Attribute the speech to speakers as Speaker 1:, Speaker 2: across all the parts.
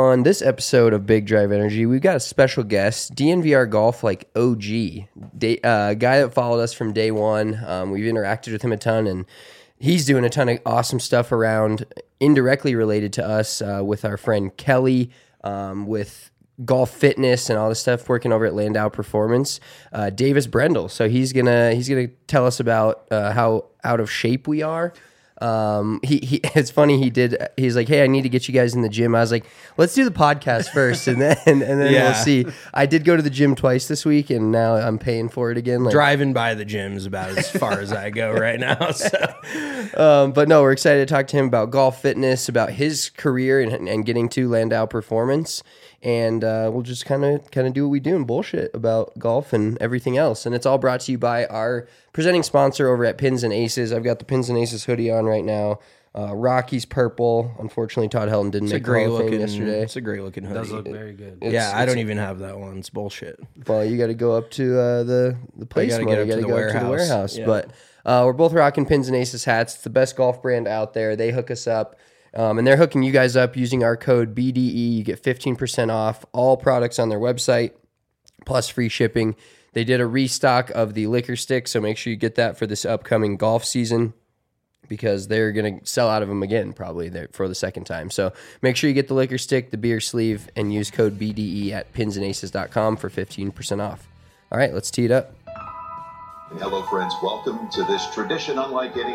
Speaker 1: on this episode of Big Drive Energy, we've got a special guest, DNVR Golf like OG, guy that followed us from day one. We've interacted with him a ton, and he's doing a ton of awesome stuff around, indirectly related to us, with our friend Kelly, with golf fitness and all this stuff, working over at Landau Performance. Davis Brendel. So he's gonna tell us about how out of shape we are. It's funny, he's like, hey, I need to get you guys in the gym. I was like, let's do the podcast first, and then we'll see. I did go to the gym twice this week, and now I'm paying for it again. Like,
Speaker 2: driving by the gym is about as far as I go right now.
Speaker 1: So. But no, we're excited to talk to him about golf fitness, about his career and getting to Landau Performance. And we'll just kind of do what we do and bullshit about golf and everything else. And it's all brought to you by our presenting sponsor over at Pins and Aces. I've got the Pins and Aces hoodie on right now. Rocky's purple. Unfortunately, Todd Helton didn't make the Hall of Fame yesterday.
Speaker 2: It's a great looking hoodie.
Speaker 3: It does look very good.
Speaker 2: I don't even have that one. It's bullshit.
Speaker 1: Well, you got to go up to the place. You got to go up to the warehouse. Yeah. But we're both rocking Pins and Aces hats. It's the best golf brand out there. They hook us up. And they're hooking you guys up using our code BDE. You get 15% off all products on their website, plus free shipping. They did a restock of the liquor stick, so make sure you get that for this upcoming golf season, because they're going to sell out of them again probably for the second time. So make sure you get the liquor stick, the beer sleeve, and use code BDE at pinsandaces.com for 15% off. All right, let's tee it up.
Speaker 4: Hello, friends. Welcome to this tradition unlike any...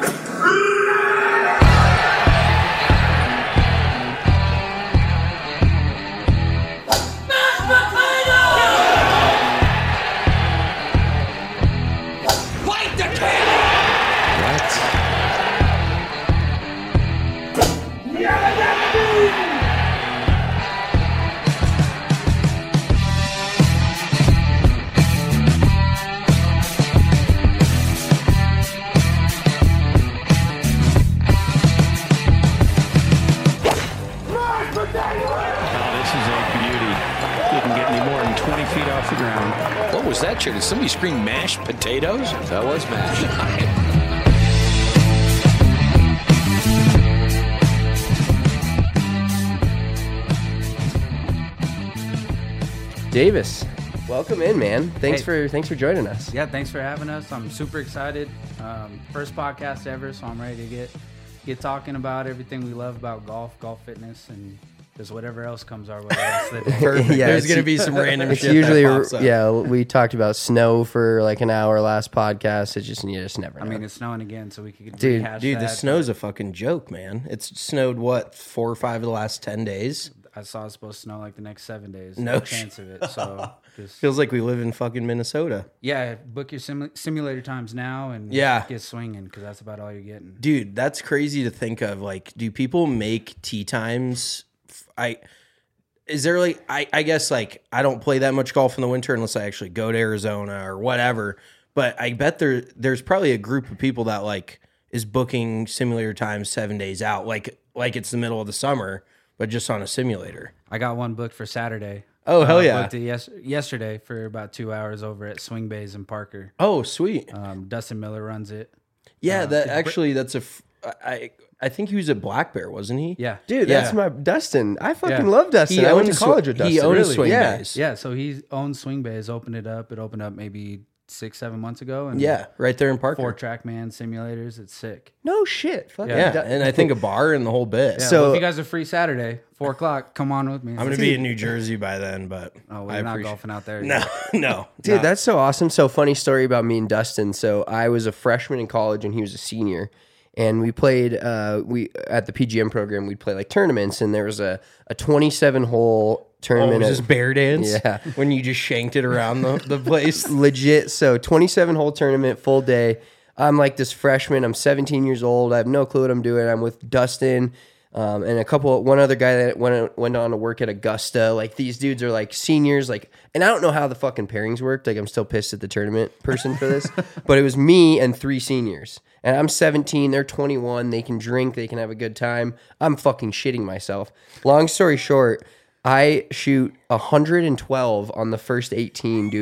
Speaker 5: What was that, Chair? Did somebody scream mashed potatoes?
Speaker 6: That was mashed.
Speaker 1: Davis, welcome in, man. Thanks for joining us.
Speaker 3: Yeah, thanks for having us. I'm super excited. First podcast ever, so I'm ready to get talking about everything we love about golf fitness, and just whatever else comes our way.
Speaker 2: Perfect. Yeah, there's going to be some random shit
Speaker 1: usually,
Speaker 2: that pops up.
Speaker 1: Yeah, we talked about snow for like an hour last podcast. You just never know.
Speaker 3: I mean, it's snowing again, so we could
Speaker 2: Dude,
Speaker 3: that.
Speaker 2: the snow's a fucking joke, man. It's snowed, 4 or 5 of the last 10 days?
Speaker 3: I saw it's supposed to snow like the next 7 days.
Speaker 2: No
Speaker 3: chance of it. So just,
Speaker 2: feels like we live in fucking Minnesota.
Speaker 3: Yeah, book your simulator times now and get swinging, because that's about all you're getting.
Speaker 2: Dude, that's crazy to think of. Like, do people make tee times? Is there like, I guess like I don't play that much golf in the winter unless I actually go to Arizona or whatever. But I bet there's probably a group of people that like is booking simulator times 7 days out, like it's the middle of the summer, but just on a simulator.
Speaker 3: I got one booked for Saturday.
Speaker 2: Oh, hell yeah.
Speaker 3: I booked it yesterday for about 2 hours over at Swing Bays in Parker.
Speaker 2: Oh, sweet.
Speaker 3: Dustin Miller runs it.
Speaker 2: Yeah, I think he was at Black Bear, wasn't he?
Speaker 3: Yeah.
Speaker 1: Dude, that's my Dustin. I fucking love Dustin. I went to college with Dustin.
Speaker 2: He owns Swing Bays.
Speaker 3: Yeah, so he owns Swing Bays, opened it up. It opened up maybe 6-7 months ago. And
Speaker 2: right there in Parker.
Speaker 3: 4 TrackMan simulators. It's sick.
Speaker 1: No shit.
Speaker 2: And I think a bar and the whole bit.
Speaker 3: Yeah, so if you guys are free Saturday, 4 o'clock, come on with me.
Speaker 2: I'm going to be in New Jersey by then, but
Speaker 3: we're not golfing out there.
Speaker 2: No.
Speaker 1: Dude, that's so awesome. So funny story about me and Dustin. So I was a freshman in college and he was a senior. And we played, at the PGM program, we'd play like tournaments, and there was a 27-hole tournament.
Speaker 2: Oh, was this bear dance?
Speaker 1: Yeah.
Speaker 2: When you just shanked it around the place?
Speaker 1: Legit. So 27-hole tournament, full day. I'm like this freshman. I'm 17 years old. I have no clue what I'm doing. I'm with Dustin and one other guy that went on to work at Augusta. Like, these dudes are like seniors. Like, and I don't know how the fucking pairings worked. Like, I'm still pissed at the tournament person for this. But it was me and 3 seniors. And I'm 17, they're 21, they can drink, they can have a good time. I'm fucking shitting myself. Long story short, I shoot 112 on the first 18, dude.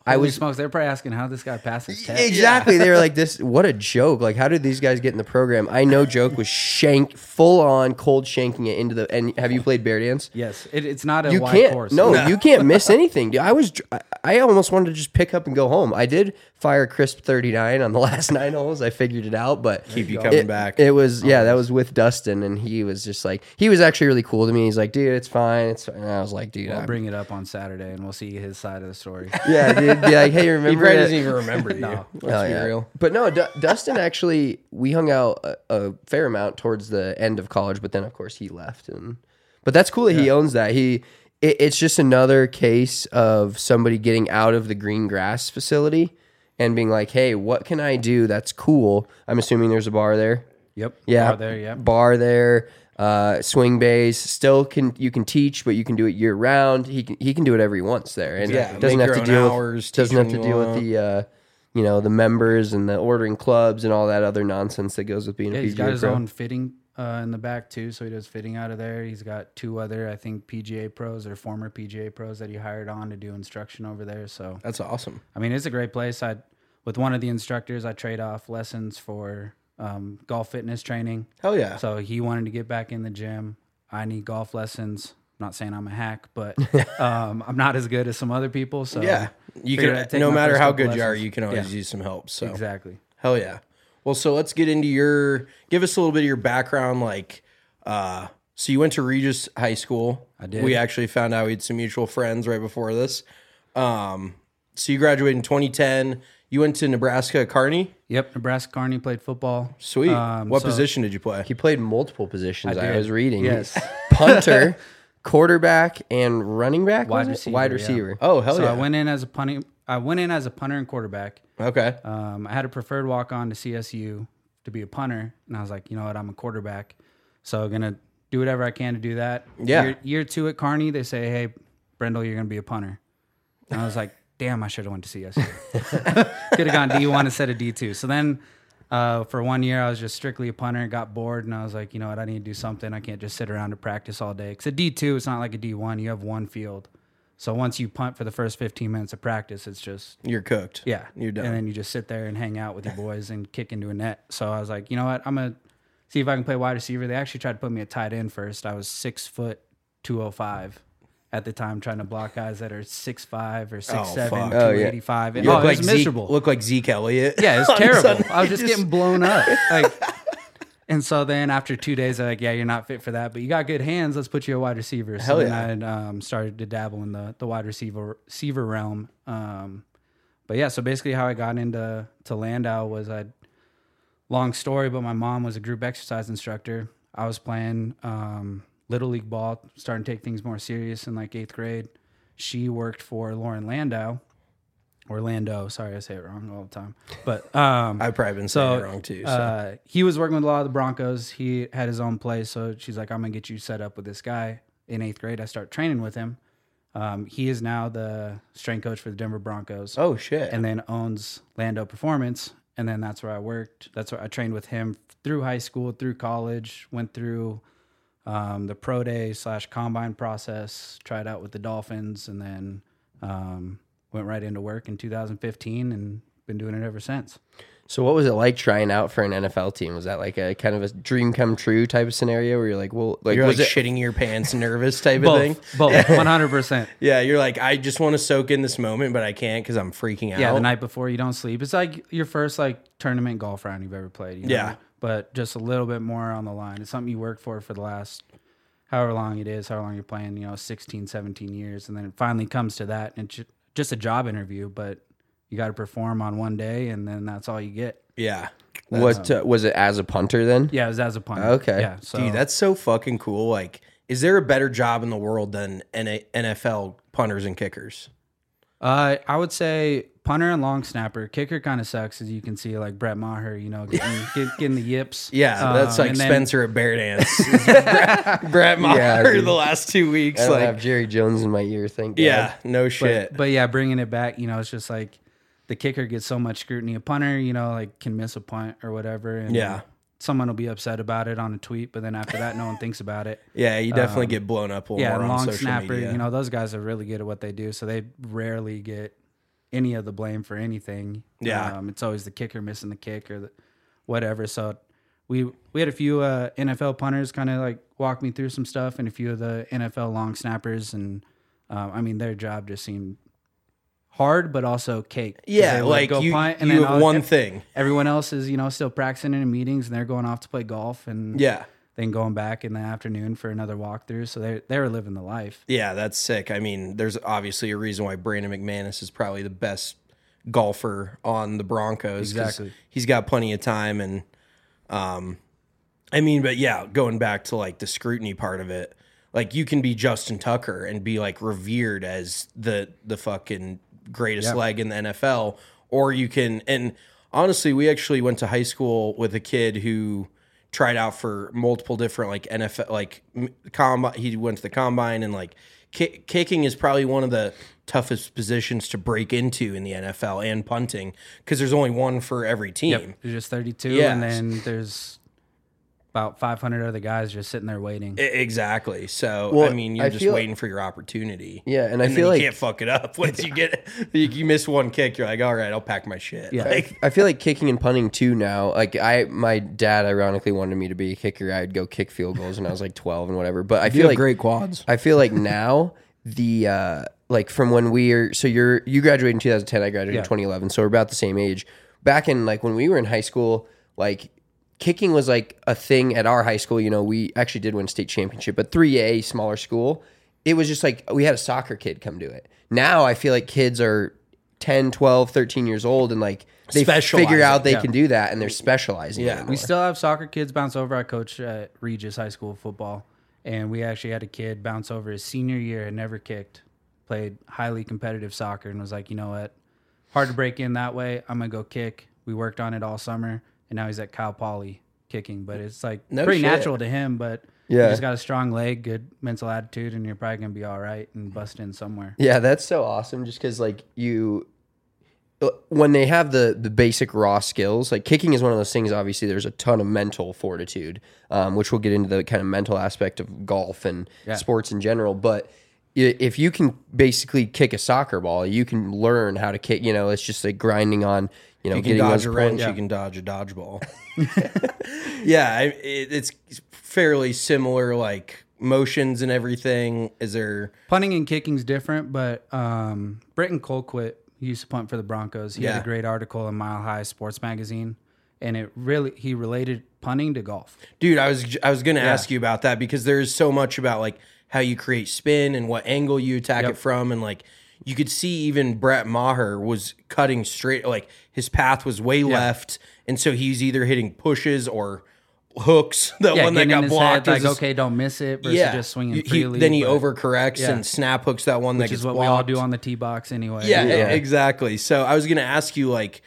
Speaker 1: I
Speaker 3: Holy
Speaker 1: was
Speaker 3: smokes, they're probably asking how this guy passed his test.
Speaker 1: exactly. They were like, "This, what a joke! Like, how did these guys get in the program?" I know joke was full on cold shanking it into the. And have you played bear dance?
Speaker 3: Yes, it's not a
Speaker 1: You
Speaker 3: wide
Speaker 1: can't.
Speaker 3: course.
Speaker 1: No, you can't miss anything. Dude, I almost wanted to just pick up and go home. I did fire crisp 39 on the last 9 holes. I figured it out, but
Speaker 2: Keep you coming back.
Speaker 1: It was that was with Dustin, and he was just like, he was actually really cool to me. He's like, "Dude, it's fine, it's fine." And I was like, "Dude,
Speaker 3: I'll bring it up on Saturday, and we'll see his side of the story.
Speaker 1: yeah, dude, be like, hey, remember?"
Speaker 2: He probably
Speaker 1: that?"
Speaker 2: doesn't even remember you.
Speaker 3: No.
Speaker 2: Let's
Speaker 1: Oh,
Speaker 2: be
Speaker 1: yeah.
Speaker 2: real.
Speaker 1: But no, Dustin actually, we hung out a fair amount towards the end of college, but then of course he left. But that's cool that he owns that. It's just another case of somebody getting out of the green grass facility and being like, hey, what can I do that's cool? I'm assuming there's a bar there.
Speaker 3: Yep.
Speaker 1: Yeah,
Speaker 3: Bar there. Yep.
Speaker 1: bar there. Swing bays. Still you can teach, but you can do it year round. He can do whatever he wants there, and
Speaker 2: Yeah,
Speaker 1: doesn't
Speaker 2: make
Speaker 1: have
Speaker 2: your
Speaker 1: to
Speaker 2: own
Speaker 1: deal
Speaker 2: hours,
Speaker 1: with doesn't have
Speaker 2: teach
Speaker 1: to
Speaker 2: when you
Speaker 1: deal with
Speaker 2: want.
Speaker 1: the the members and the ordering clubs and all that other nonsense that goes with being
Speaker 3: Yeah,
Speaker 1: a PGA
Speaker 3: he's got his
Speaker 1: pro.
Speaker 3: own fitting in the back too, so he does fitting out of there. He's got 2 other, I think, PGA pros or former PGA pros that he hired on to do instruction over there. So
Speaker 2: That's awesome.
Speaker 3: I mean, it's a great place. With one of the instructors, I trade off lessons for golf fitness training.
Speaker 2: Hell yeah.
Speaker 3: So he wanted to get back in the gym. I need golf lessons. I'm not saying I'm a hack, but I'm not as good as some other people. So
Speaker 2: Yeah. You
Speaker 3: figured I'd
Speaker 2: can,
Speaker 3: take
Speaker 2: no
Speaker 3: my
Speaker 2: matter
Speaker 3: first
Speaker 2: how
Speaker 3: couple
Speaker 2: good you are,
Speaker 3: lessons.
Speaker 2: you can always
Speaker 3: Yeah,
Speaker 2: use some help. So
Speaker 3: exactly.
Speaker 2: hell yeah. Well, so let's get into give us a little bit of your background. Like, so you went to Regis High School.
Speaker 3: I did.
Speaker 2: We actually found out we had some mutual friends right before this. So you graduated in 2010. You went to Nebraska Kearney.
Speaker 3: Yep, Nebraska Kearney, played football.
Speaker 2: Sweet. What
Speaker 3: So-
Speaker 2: position did you play?
Speaker 1: He played multiple positions. I
Speaker 3: did.
Speaker 1: was reading.
Speaker 3: Yes.
Speaker 1: Punter, quarterback, and running back.
Speaker 3: Wide
Speaker 1: was it?
Speaker 3: receiver,
Speaker 1: Wide
Speaker 3: yeah.
Speaker 1: receiver.
Speaker 2: Oh, hell
Speaker 3: So
Speaker 2: yeah.
Speaker 3: I went in as a punter and quarterback.
Speaker 2: Okay.
Speaker 3: I had a preferred walk on to CSU to be a punter, and I was like, you know what, I'm a quarterback, so gonna do whatever I can to do that.
Speaker 2: Yeah.
Speaker 3: Year 2 at Kearney, they say, hey, Brendel, you're gonna be a punter, and I was like, damn, I should have went to CSU. Could have gone D1 instead of D2. So then for 1 year, I was just strictly a punter, got bored, and I was like, you know what, I need to do something. I can't just sit around and practice all day. Because at D2, it's not like a D1. You have one field. So once you punt for the first 15 minutes of practice, it's just,
Speaker 2: You're cooked.
Speaker 3: yeah.
Speaker 2: You're done.
Speaker 3: And then you just sit there and hang out with your boys and kick into a net. So I was like, you know what, I'm going to see if I can play wide receiver. They actually tried to put me at tight end first. I was 6 foot 205 at the time, trying to block guys that are 6'5" or 6'7",
Speaker 2: fuck.
Speaker 3: 285. And,
Speaker 2: You
Speaker 3: it
Speaker 2: look
Speaker 3: was
Speaker 2: like
Speaker 3: miserable.
Speaker 2: look like Zeke Elliott.
Speaker 3: Yeah, it's
Speaker 2: On
Speaker 3: terrible.
Speaker 2: Sunday.
Speaker 3: I was just getting blown up. And so then after 2 days, they're like, yeah, you're not fit for that, but you got good hands. Let's put you a wide receiver. So
Speaker 2: Hell
Speaker 3: then
Speaker 2: yeah.
Speaker 3: I started to dabble in the wide receiver realm. But yeah, so basically how I got into Landau was long story, but my mom was a group exercise instructor. I was playing Little League ball, starting to take things more serious in like 8th grade. She worked for Lauren Landau. Orlando, sorry, I say it wrong all the time. But
Speaker 2: I've probably been saying it wrong too. So.
Speaker 3: he was working with a lot of the Broncos. He had his own place, so she's like, I'm gonna get you set up with this guy. In 8th grade, I start training with him. He is now the strength coach for the Denver Broncos.
Speaker 2: Oh shit.
Speaker 3: And then owns Lando Performance. And then that's where I worked. That's where I trained with him through high school, through college, went through the pro day / combine process, tried out with the Dolphins, and then went right into work in 2015 and been doing it ever since.
Speaker 1: So what was it like trying out for an NFL team? Was that like a kind of a dream come true type of scenario where you're like, well, like,
Speaker 2: You're
Speaker 1: was
Speaker 2: like
Speaker 1: it
Speaker 2: shitting your pants, nervous type of thing.
Speaker 3: Both, 100%.
Speaker 2: Yeah, you're like, I just want to soak in this moment, but I can't because I'm freaking out.
Speaker 3: Yeah, the night before you don't sleep. It's like your first like tournament golf round you've ever played. You know?
Speaker 2: Yeah.
Speaker 3: But just a little bit more on the line. It's something you work for the last however long it is, however long you're playing, 16, 17 years. And then it finally comes to that. And it's just a job interview, but you got to perform on one day and then that's all you get.
Speaker 2: Yeah.
Speaker 1: was it as a punter then?
Speaker 3: Yeah, it was as a punter.
Speaker 1: Okay.
Speaker 3: Yeah. So
Speaker 2: Dude, that's so fucking cool. Like, is there a better job in the world than NFL punters and kickers?
Speaker 3: I would say punter and long snapper. Kicker kind of sucks, as you can see, like Brett Maher, getting the yips.
Speaker 2: Yeah, that's like
Speaker 3: and then-
Speaker 2: Spencer at Bear Dance. Brett Maher
Speaker 1: Yeah, dude.
Speaker 2: the last 2 weeks.
Speaker 1: I don't
Speaker 2: Like,
Speaker 1: have Jerry Jones in my ear, thank God.
Speaker 2: yeah, no shit.
Speaker 3: But yeah, bringing it back, it's just like the kicker gets so much scrutiny. A punter, like can miss a punt or whatever. And
Speaker 2: Yeah.
Speaker 3: someone will be upset about it on a tweet, but then after that, no one thinks about it.
Speaker 2: Yeah, you definitely get blown up a little
Speaker 3: Yeah,
Speaker 2: more
Speaker 3: and
Speaker 2: on
Speaker 3: long
Speaker 2: social
Speaker 3: snapper,
Speaker 2: media.
Speaker 3: those guys are really good at what they do, so they rarely get any of the blame for anything.
Speaker 2: Yeah.
Speaker 3: It's always the kicker missing the kick or whatever. So we had a few NFL punters kind of like walk me through some stuff, and a few of the NFL long snappers, and I mean their job just seemed hard, but also cake.
Speaker 2: Yeah,
Speaker 3: They would
Speaker 2: like
Speaker 3: go
Speaker 2: you
Speaker 3: punt, and
Speaker 2: you
Speaker 3: then
Speaker 2: have one thing.
Speaker 3: Everyone else is still practicing in meetings, and they're going off to play golf, and
Speaker 2: Yeah.
Speaker 3: then going back in the afternoon for another walkthrough. So they were living the life.
Speaker 2: Yeah, that's sick. I mean, there's obviously a reason why Brandon McManus is probably the best golfer on the Broncos. 'Cause
Speaker 3: Exactly.
Speaker 2: He's got plenty of time. And, I mean, but yeah, going back to like the scrutiny part of it, like you can be Justin Tucker and be like revered as the fucking greatest leg in the NFL, or you can, and honestly, we actually went to high school with a kid who tried out for multiple different like NFL, like combine. He went to the combine, and like kicking is probably one of the toughest positions to break into in the NFL, and punting, because there's only one for every team.
Speaker 3: There's just 32,
Speaker 2: Yeah.
Speaker 3: and then there's about 500 other guys just sitting there waiting.
Speaker 2: Exactly. So
Speaker 1: Well,
Speaker 2: I mean, you're
Speaker 1: I
Speaker 2: just
Speaker 1: feel-
Speaker 2: waiting for your opportunity.
Speaker 1: Yeah, and I
Speaker 2: then
Speaker 1: feel
Speaker 2: you
Speaker 1: like-
Speaker 2: can't fuck it up once you get you miss one kick. You're like, all right, I'll pack my shit.
Speaker 3: Yeah.
Speaker 2: Like,
Speaker 1: I feel like kicking and punting too now. Like my dad ironically wanted me to be a kicker. I'd go kick field goals when I was like 12 and whatever. But I feel like
Speaker 2: great quads.
Speaker 1: I feel like now the like from when you graduated in 2010, I graduated in 2011, so we're about the same age. Back in like when we were in high school, like kicking was like a thing at our high school. We actually did win state championship, but 3A, smaller school, it was just like we had a soccer kid come do it. Now I feel like kids are 10, 12, 13 years old, and like they
Speaker 2: Specializing.
Speaker 1: figure out they can do that, and they're specializing.
Speaker 2: Yeah.
Speaker 1: anymore.
Speaker 3: We still have soccer kids bounce over. I coach at Regis High School football, and we actually had a kid bounce over his senior year and never kicked, played highly competitive soccer, and was like, you know what, hard to break in that way. I'm going to go kick. We worked on it all summer, and now he's at Cal Poly kicking. But it's like
Speaker 2: No
Speaker 3: pretty
Speaker 2: shit.
Speaker 3: natural to him, but you
Speaker 1: Yeah.
Speaker 3: just got a strong leg, good mental attitude, and you're probably going to be all right and bust in somewhere.
Speaker 1: Yeah, that's so awesome. Just because like when they have the basic raw skills, like kicking is one of those things. Obviously, there's a ton of mental fortitude, which we'll get into the kind of mental aspect of golf and sports in general. But if you can basically kick a soccer ball, you can learn how to kick. It's just like grinding on.
Speaker 2: You can
Speaker 1: getting
Speaker 2: dodge
Speaker 1: those
Speaker 2: a wrench,
Speaker 1: points.
Speaker 2: you can dodge a dodgeball. Yeah, it's fairly similar, like motions and everything. Is there?
Speaker 3: Punting and kicking's different, but Britton Colquitt, he used to punt for the Broncos. He had
Speaker 2: Yeah.
Speaker 3: a great article in Mile High Sports Magazine, and he related punting to golf.
Speaker 2: Dude, I was going to ask you about that, because there's so much about like how you create spin and what angle you attack it from, and like you could see even Brett Maher was cutting straight, like his path was way left, and so he's either hitting pushes or hooks. The one that
Speaker 3: getting in
Speaker 2: got
Speaker 3: his
Speaker 2: blocked,
Speaker 3: head, like,
Speaker 2: is-
Speaker 3: okay, don't miss it, versus just swinging freely.
Speaker 2: Then he
Speaker 3: but-
Speaker 2: overcorrects
Speaker 3: Yeah.
Speaker 2: and snap hooks that one that
Speaker 3: which
Speaker 2: gets
Speaker 3: is what
Speaker 2: blocked.
Speaker 3: we all do on the tee box anyway.
Speaker 2: Yeah, exactly. So I was going to ask you, like,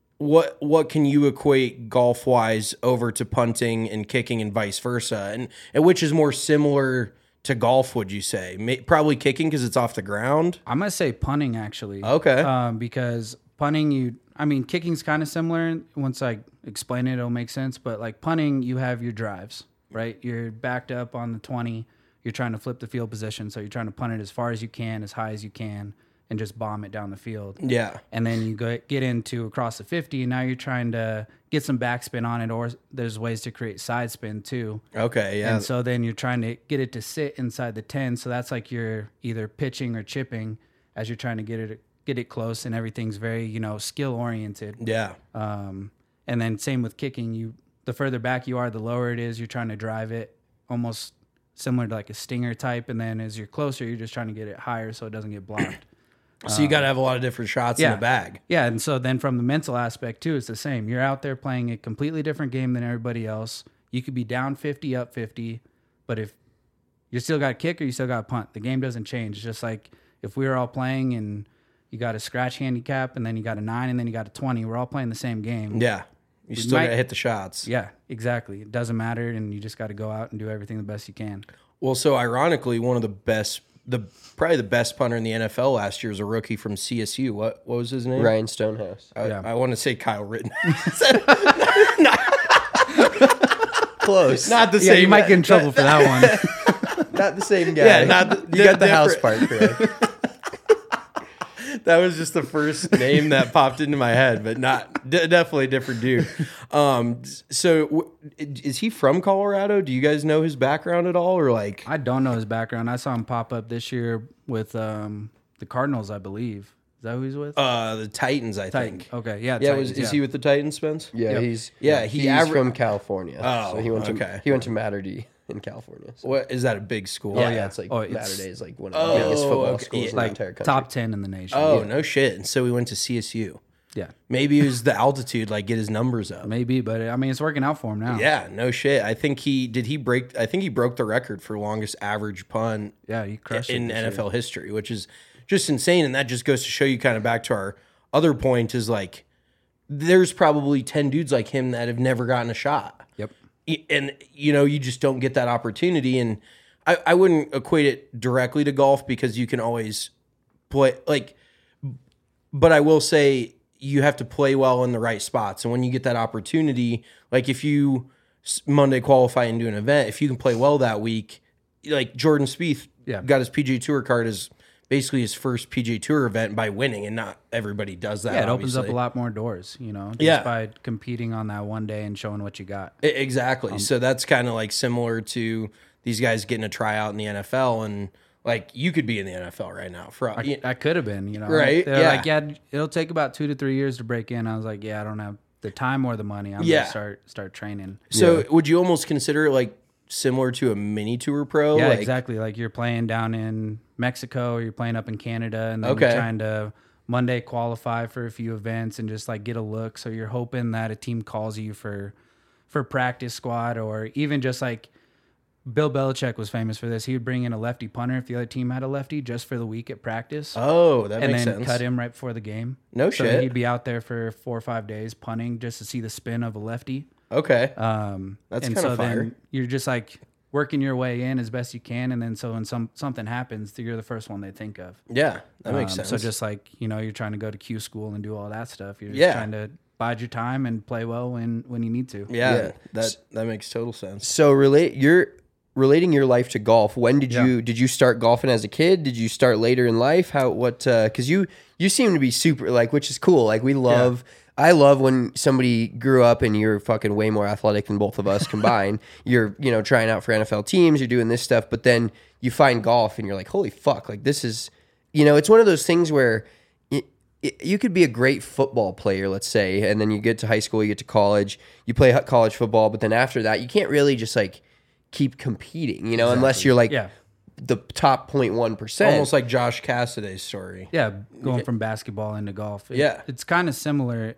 Speaker 2: what can you equate golf wise over to punting and kicking and vice versa, and which is more similar to golf? Would you say probably kicking because it's off the ground?
Speaker 3: I'm gonna say punting actually.
Speaker 2: Okay.
Speaker 3: Because punting, kicking's kind of similar. Once I explain it, it'll make sense. But like punting, you have your drives, right? You're backed up on the 20. You're trying to flip the field position, so you're trying to punt it as far as you can, as high as you can, and just bomb it down the field.
Speaker 2: Yeah.
Speaker 3: And then you get into across the 50, and now you're trying to get some backspin on it, or there's ways to create side spin too.
Speaker 2: Okay. Yeah.
Speaker 3: And so then you're trying to get it to sit inside the 10. So that's like you're either pitching or chipping as you're trying to get it close, and everything's very, skill oriented.
Speaker 2: yeah.
Speaker 3: And then same with kicking, the further back you are, the lower it is. You're trying to drive it almost similar to like a stinger type. And then as you're closer, you're just trying to get it higher so it doesn't get blocked.
Speaker 2: So you got to have a lot of different shots in the bag.
Speaker 3: Yeah, and so then from the mental aspect too, it's the same. You're out there playing a completely different game than everybody else. You could be down 50, up 50, but if you still got kick or you still got punt, the game doesn't change. It's just like if we were all playing and you got a scratch handicap and then you got a 9 and then you got a 20, we're all playing the same game.
Speaker 2: Yeah. You still got to hit the shots.
Speaker 3: Yeah, exactly. It doesn't matter, and you just got to go out and do everything the best you can.
Speaker 2: Well, so ironically, one of the best, probably the best punter in the NFL last year was a rookie from CSU. What was his name?
Speaker 1: Ryan Stonehouse.
Speaker 2: I want to say Kyle Rittenhouse.
Speaker 1: Close.
Speaker 2: Not the
Speaker 3: Yeah,
Speaker 2: same.
Speaker 3: you might get in trouble for that one.
Speaker 1: Not the same guy.
Speaker 2: Yeah, not the-
Speaker 1: you got the house
Speaker 2: different.
Speaker 1: part correct.
Speaker 2: That was just the first name that popped into my head, but definitely a different dude. Is he from Colorado? Do you guys know his background at all, or like?
Speaker 3: I don't know his background. I saw him pop up this year with the Cardinals, I believe. Is that who he's with?
Speaker 2: The Titans, I think.
Speaker 3: Okay, yeah.
Speaker 2: Yeah,
Speaker 3: Titans,
Speaker 2: is he with the Titans, Spence?
Speaker 1: Yeah,
Speaker 3: Yep.
Speaker 1: he's from California.
Speaker 2: Oh,
Speaker 1: so he went
Speaker 2: okay.
Speaker 1: to Mater D in California. So.
Speaker 2: What is that? A big school?
Speaker 1: Yeah, it's like Mater Day is like one of the biggest football schools in the entire country.
Speaker 3: top 10 in the nation.
Speaker 2: Oh, no shit. And so we went to CSU.
Speaker 3: Yeah,
Speaker 2: Maybe it was the altitude, like get his numbers up.
Speaker 3: maybe, but I mean, it's working out for him now.
Speaker 2: Yeah, no shit. I think he broke the record for longest average punt
Speaker 3: Yeah, he crushed
Speaker 2: in
Speaker 3: it this year.
Speaker 2: NFL history, which is just insane. And that just goes to show you kind of back to our other point is like there's probably 10 dudes like him that have never gotten a shot.
Speaker 3: Yep.
Speaker 2: And you just don't get that opportunity. And I wouldn't equate it directly to golf because you can always play but I will say you have to play well in the right spots. And when you get that opportunity, like if you Monday qualify and do an event, if you can play well that week, like Jordan Spieth got his PGA Tour card as basically his first PGA Tour event by winning, and not everybody does that.
Speaker 3: Yeah, it opens up
Speaker 2: obviously.
Speaker 3: a lot more doors, just by competing on that one day and showing what you got.
Speaker 2: Exactly. So that's kind of like similar to these guys getting a tryout in the NFL, and like you could be in the NFL right now.
Speaker 3: I could have been,
Speaker 2: Right,
Speaker 3: They're
Speaker 2: yeah.
Speaker 3: like, yeah, it'll take about 2 to 3 years to break in. I was like, yeah, I don't have the time or the money. I'm gonna start training.
Speaker 2: So would you almost consider it like similar to a mini tour pro?
Speaker 3: Yeah,
Speaker 2: like,
Speaker 3: exactly. Like you're playing down in Mexico or you're playing up in Canada, and then
Speaker 2: Okay.
Speaker 3: you're trying to Monday qualify for a few events and just like get a look. So you're hoping that a team calls you for practice squad, or even just like Bill Belichick was famous for this. He would bring in a lefty punter if the other team had a lefty just for the week at practice.
Speaker 2: Oh, that
Speaker 3: and
Speaker 2: makes
Speaker 3: then
Speaker 2: sense.
Speaker 3: cut him right before the game.
Speaker 2: No
Speaker 3: so
Speaker 2: shit.
Speaker 3: He'd be out there for 4 or 5 days punting just to see the spin of a lefty.
Speaker 2: Okay.
Speaker 3: and
Speaker 2: That's kinda
Speaker 3: so
Speaker 2: fire.
Speaker 3: then you're just like working your way in as best you can, and then so when something happens, you're the first one they think of.
Speaker 2: Yeah, that makes sense.
Speaker 3: So just like you're trying to go to Q school and do all that stuff. You're just
Speaker 2: Yeah.
Speaker 3: trying to bide your time and play well when you need to.
Speaker 2: yeah, that makes total sense.
Speaker 1: So relating your life to golf. When did you start golfing as a kid? Did you start later in life? Because you seem to be super like, which is cool. Like I love when somebody grew up and you're fucking way more athletic than both of us combined. You're trying out for NFL teams. You're doing this stuff, but then you find golf and you're like, holy fuck! Like this is it's one of those things where. You could be a great football player, let's say, and then you get to high school, you get to college, you play college football, but then after that, you can't really just like keep competing, unless you're like the top 0.1%.
Speaker 2: Almost like Josh Cassaday's story.
Speaker 3: Yeah, going from basketball into golf. It's kind of similar.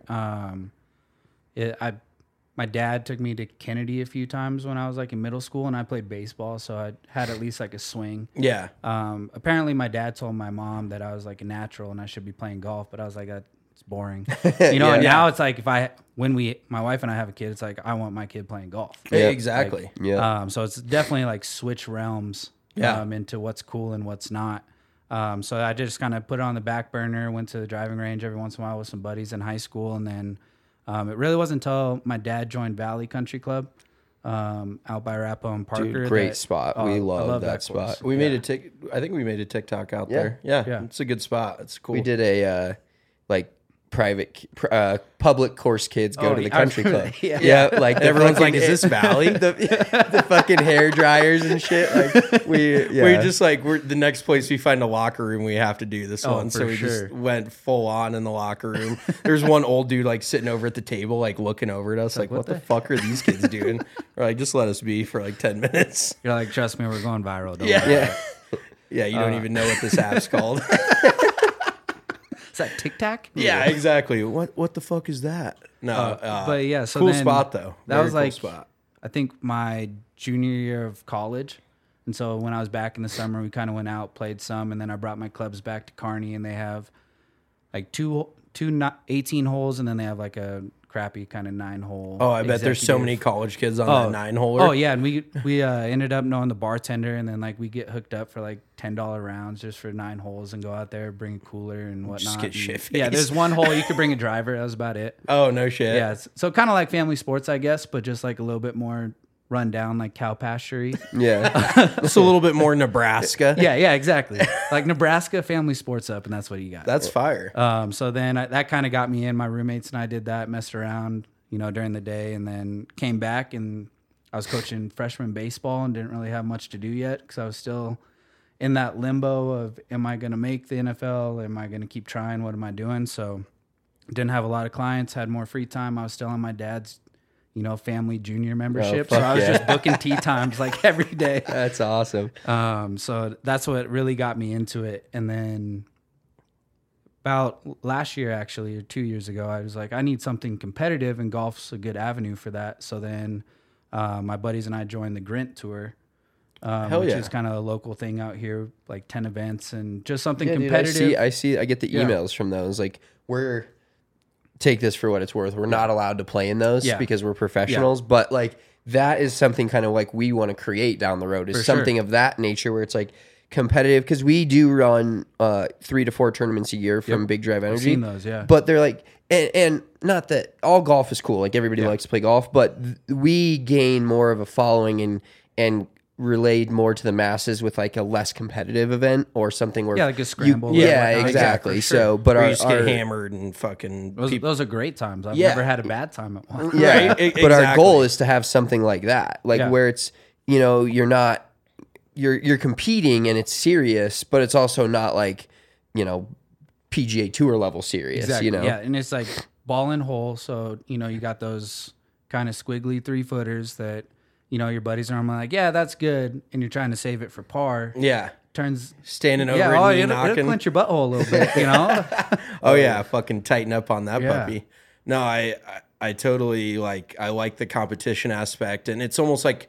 Speaker 3: My dad took me to Kennedy a few times when I was like in middle school, and I played baseball, so I had at least like a swing.
Speaker 2: Yeah.
Speaker 3: Apparently, my dad told my mom that I was like a natural and I should be playing golf, but I was like, it's boring. And now it's like when my wife and I have a kid, it's like I want my kid playing golf.
Speaker 2: Yeah, exactly.
Speaker 3: So it's definitely like switch realms into what's cool and what's not. So I just kind of put it on the back burner, went to the driving range every once in a while with some buddies in high school, and then it really wasn't until my dad joined Valley Country Club out by Arapahoe and Parker.
Speaker 1: Dude, great spot. We love that spot.
Speaker 3: course.
Speaker 2: We made I think we made a TikTok out there. Yeah, it's a good spot. It's cool.
Speaker 1: We did a private public course kids go to the country club. Like
Speaker 2: Everyone's like, is this Valley?
Speaker 1: the fucking hair dryers and shit. Like
Speaker 2: we just we're the next place we find a locker room, we have to do this one.
Speaker 3: for
Speaker 2: So we just went full on in the locker room. There's one old dude like sitting over at the table, like looking over at us, like what the fuck are these kids doing? We're like, just let us be for like 10 minutes.
Speaker 3: You're like, trust me, we're going viral. Don't worry.
Speaker 2: Yeah, you don't even know what this app's called.
Speaker 3: Is that Tic Tac?
Speaker 2: Yeah, exactly. What the fuck is that? No,
Speaker 3: But yeah, so
Speaker 2: cool
Speaker 3: then
Speaker 2: spot though.
Speaker 3: That
Speaker 2: Very
Speaker 3: was
Speaker 2: cool
Speaker 3: like
Speaker 2: spot.
Speaker 3: I think my junior year of college. And so when I was back in the summer, we kind of went out, played some, and then I brought my clubs back to Kearney, and they have like two 18 holes, and then they have like a crappy kind of 9-hole.
Speaker 2: Oh, I bet there's so many college kids on that 9-holer.
Speaker 3: Oh yeah, and we ended up knowing the bartender, and then like we get hooked up for like $10 rounds just for 9 holes, and go out there, bring a cooler and whatnot.
Speaker 2: Just get
Speaker 3: And,
Speaker 2: shit-faced.
Speaker 3: yeah, there's one hole you could bring a driver. That was about it.
Speaker 2: Oh, no shit.
Speaker 3: Yeah, so kind of like family sports, I guess, but just like a little bit more run down like cow pasture.
Speaker 1: Yeah.
Speaker 2: It's a little bit more Nebraska.
Speaker 3: Yeah, exactly. Like Nebraska family sports up, and that's what you got.
Speaker 2: That's fire.
Speaker 3: So then that kind of got me in. My roommates and I did that, messed around, during the day, and then came back and I was coaching freshman baseball and didn't really have much to do yet because I was still in that limbo of, am I going to make the NFL? Am I going to keep trying? What am I doing? So didn't have a lot of clients, had more free time. I was still on my dad's, family junior membership. So I was just booking tee times like every day.
Speaker 1: That's awesome.
Speaker 3: So that's what really got me into it. And then about last year, actually, or 2 years ago, I was like, I need something competitive, and golf's a good avenue for that. So then my buddies and I joined the Grint Tour, which is kind of a local thing out here, like 10 events and just something competitive.
Speaker 1: Dude, I get the emails from those. Like, take this for what it's worth. We're not allowed to play in those because we're professionals, but like that is something kind of like we want to create down the road is something of that nature where it's like competitive, because we do run 3 to 4 tournaments a year from Big Drive Energy.
Speaker 3: I've seen those, yeah.
Speaker 1: But they're like, and not that all golf is cool. Like everybody likes to play golf, but we gain more of a following and relayed more to the masses with like a less competitive event or something where
Speaker 3: like a scramble.
Speaker 1: Exactly. So, but
Speaker 2: Where
Speaker 1: our
Speaker 2: you just get hammered and fucking
Speaker 3: those are great times. I've never had a bad time at one.
Speaker 1: Yeah,
Speaker 2: Right,
Speaker 1: but our goal is to have something like that, like where it's you're not you're competing and it's serious, but it's also not like PGA Tour level serious.
Speaker 3: Exactly. Yeah, and it's like ball and hole. So you got those kind of squiggly 3-footers that your buddies are like, yeah, that's good, and you're trying to save it for par.
Speaker 2: Yeah.
Speaker 3: Turns
Speaker 2: standing over and
Speaker 3: it'll
Speaker 2: knocking.
Speaker 3: clench your butthole a little bit,
Speaker 2: Oh yeah, fucking tighten up on that puppy. No, I totally I like the competition aspect, and it's almost like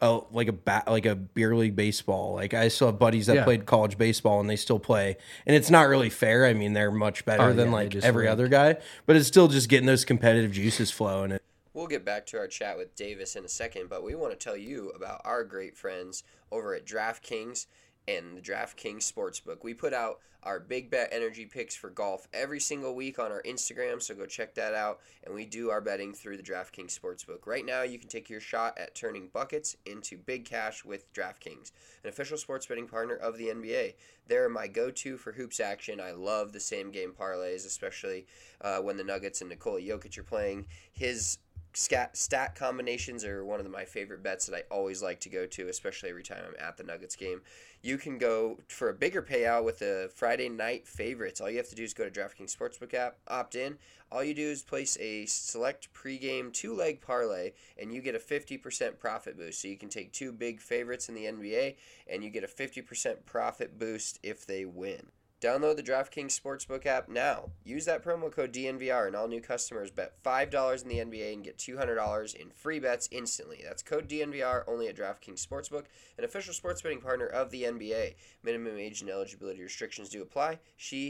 Speaker 2: a beer league baseball. Like I still have buddies that played college baseball and they still play, and it's not really fair. I mean, they're much better than every other guy, but it's still just getting those competitive juices flowing.
Speaker 1: We'll get back to our chat with Davis in a second, but we want to tell you about our great friends over at DraftKings and the DraftKings Sportsbook. We put out our big bet energy picks for golf every single week on our Instagram, so go check that out. And we do our betting through the DraftKings Sportsbook. Right now, you can take your shot at turning buckets into big cash with DraftKings, an official sports betting partner of the NBA. They're my go-to for hoops action. I love the same game parlays, especially when the Nuggets and Nikola Jokic are playing. His stat combinations are one of my favorite bets that I always like to go to, especially every time I'm at the Nuggets game. You can go for a bigger payout with the Friday night favorites. All you have to do is go to DraftKings Sportsbook app, opt in. All you do is place a select pregame 2-leg parlay, and you get a 50% profit boost. So you can take 2 big favorites in the NBA, and you get a 50% profit boost if they win. Download the DraftKings Sportsbook app now. Use that promo code DNVR, and all new customers bet $5 in the NBA and get $200 in free bets instantly. That's code DNVR only at DraftKings Sportsbook, an official sports betting partner of the NBA. Minimum age and eligibility restrictions do apply.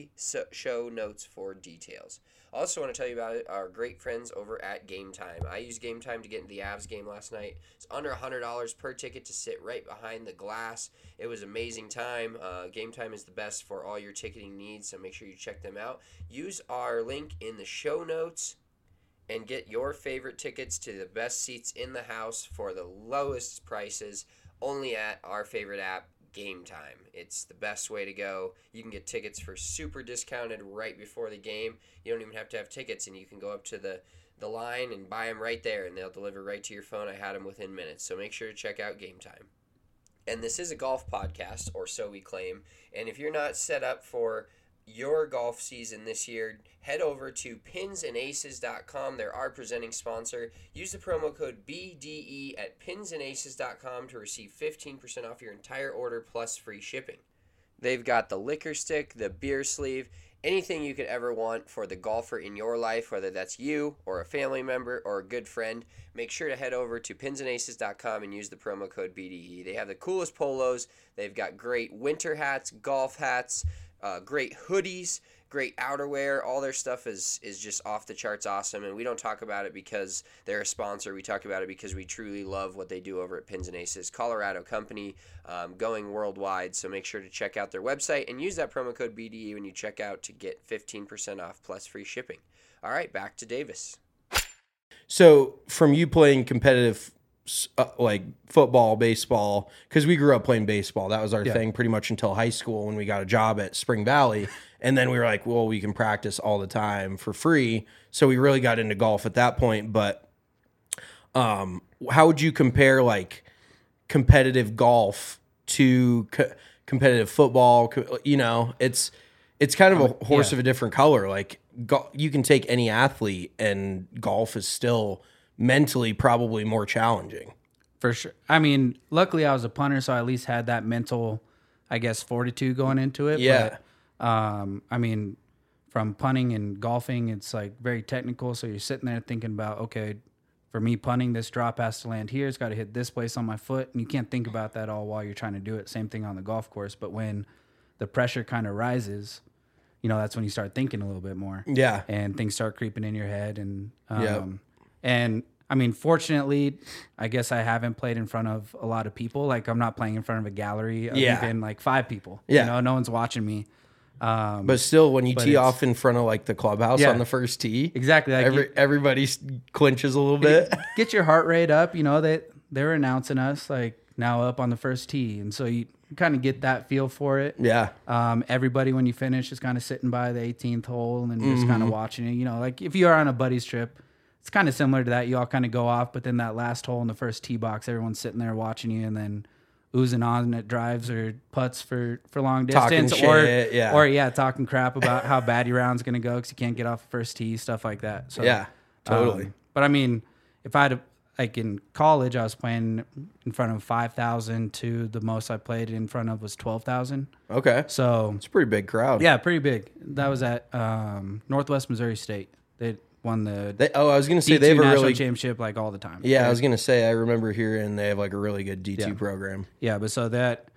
Speaker 1: Show notes for details. I also want to tell you about our great friends over at Game Time. I used Game Time to get into the Avs game last night. It's under $100 per ticket to sit right behind the glass. It was an amazing time. Game Time is the best for all your ticketing needs, so make sure you check them out. Use our link in the show notes and get your favorite tickets to the best seats in the house for the lowest prices only at our favorite app, Game Time. It's the best way to go. You can get tickets for super discounted right before the game. You don't even have to have tickets, and you can go up to the line and buy them right there, and they'll deliver right to your phone. I had them within minutes, so make sure to check out Game Time. And this is a golf podcast, or so we claim, and if you're not set up for your golf season this year, head over to pinsandaces.com. They're our presenting sponsor. Use the promo code BDE at pinsandaces.com to receive 15% off your entire order plus free shipping. They've got the liquor stick, the beer sleeve, anything you could ever want for the golfer in your life, whether that's you or a family member or a good friend. Make sure to head over to pinsandaces.com and use the promo code BDE. They have the coolest polos. They've got great winter hats, golf hats, great hoodies, great outerwear. All their stuff is just off the charts awesome, and we don't talk about it because they're a sponsor. We talk about it because we truly love what they do over at Pins and Aces, Colorado company, going worldwide. So make sure to check out their website and use that promo code BDE when you check out to get 15% off plus free shipping. All right, back to Davis.
Speaker 2: So from you playing competitive like football, baseball, because we grew up playing baseball. That was our thing pretty much until high school when we got a job at Spring Valley. And then we were like, well, we can practice all the time for free. So we really got into golf at that point. But how would you compare like competitive golf to competitive football? You know, it's kind of a horse of a different color. Like you can take any athlete, and golf is still mentally probably more challenging.
Speaker 3: For sure. I mean, luckily I was a punter, so I at least had that mental, I guess, fortitude going into it.
Speaker 2: Yeah.
Speaker 3: But, I mean, from punting and golfing, it's like very technical. So you're sitting there thinking about, okay, for me punting, this drop has to land here. It's got to hit this place on my foot. And you can't think about that all while you're trying to do it. Same thing on the golf course. But when the pressure kind of rises, you know, that's when you start thinking a little bit more.
Speaker 2: Yeah.
Speaker 3: And things start creeping in your head. And I mean, fortunately, I guess I haven't played in front of a lot of people. Like I'm not playing in front of a gallery of even like 5 people.
Speaker 2: Yeah.
Speaker 3: You know, no one's watching me.
Speaker 2: But still, when you tee off in front of like the clubhouse on the first tee,
Speaker 3: Exactly. Like
Speaker 2: everybody clinches a little bit.
Speaker 3: get your heart rate up. You know, they're announcing us like now up on the first tee. And so you kind of get that feel for it.
Speaker 2: Yeah.
Speaker 3: Everybody, when you finish, is kind of sitting by the 18th hole and just kind of watching it. You know, like if you are on a buddy's trip, it's kind of similar to that. You all kind of go off, but then that last hole in the first tee box, everyone's sitting there watching you and then oozing on at drives or putts for long distance. Talking crap about how bad your round's going to go because you can't get off the first tee, stuff like that. So,
Speaker 2: yeah, totally.
Speaker 3: But I mean, if I had like in college, I was playing in front of 5,000 to the most I played in front of was 12,000.
Speaker 2: Okay.
Speaker 3: So
Speaker 2: it's a pretty big crowd.
Speaker 3: Yeah, pretty big. That was at Northwest Missouri State. They won the
Speaker 2: I was going to say
Speaker 3: D2
Speaker 2: they have a
Speaker 3: national
Speaker 2: really
Speaker 3: championship like all the time.
Speaker 2: Yeah, I was going to say I remember hearing they have like a really good D2 program.
Speaker 3: Yeah, but so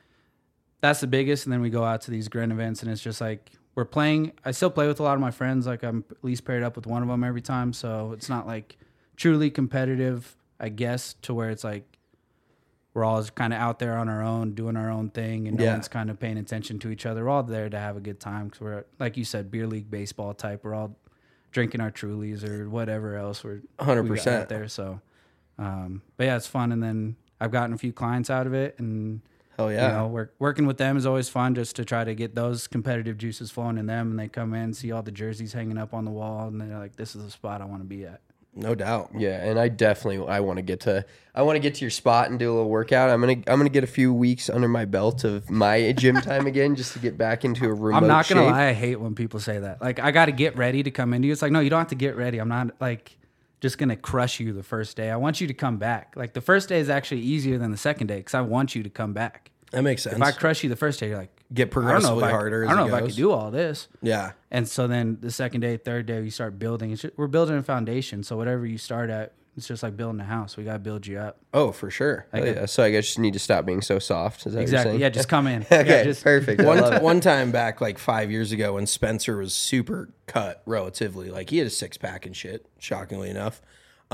Speaker 3: that's the biggest, and then we go out to these grand events, and it's just like we're playing. I still play with a lot of my friends. Like I'm at least paired up with one of them every time, so it's not like truly competitive, I guess, to where it's like we're all kind of out there on our own, doing our own thing, and no one's kind of paying attention to each other. We're all there to have a good time because we're, like you said, beer league baseball type. We're all drinking our Trulies or whatever else we're
Speaker 2: 100%
Speaker 3: out there. So, but yeah, it's fun. And then I've gotten a few clients out of it, and
Speaker 2: hell yeah,
Speaker 3: you know, working with them is always fun just to try to get those competitive juices flowing in them. And they come in, see all the jerseys hanging up on the wall, and they're like, "This is the spot I want to be at."
Speaker 2: No doubt.
Speaker 1: Yeah, and I want to get to your spot and do a little workout. I'm gonna get a few weeks under my belt of my gym time again, just to get back into a remote.
Speaker 3: I'm not gonna
Speaker 1: shape.
Speaker 3: lie, I hate when people say that. Like, I got to get ready to come into you. It's like, no, you don't have to get ready. I'm not like just gonna crush you the first day. I want you to come back. Like the first day is actually easier than the second day because I want you to come back.
Speaker 2: That makes sense.
Speaker 3: If I crush you the first day, you're like,
Speaker 2: get progressively harder.
Speaker 3: I don't know if I could do all this.
Speaker 2: Yeah.
Speaker 3: And so then the second day, third day, you start building. We're building a foundation. So whatever you start at, it's just like building a house. We got to build you up.
Speaker 2: Oh, for sure.
Speaker 1: Yeah. So I guess you need to stop being so soft. Is that
Speaker 3: Exactly.
Speaker 1: what you're saying?
Speaker 3: Yeah, just come in.
Speaker 1: Okay,
Speaker 3: just
Speaker 1: perfect.
Speaker 2: One time back, like 5 years ago, when Spencer was super cut relatively, like he had a 6-pack and shit, shockingly enough.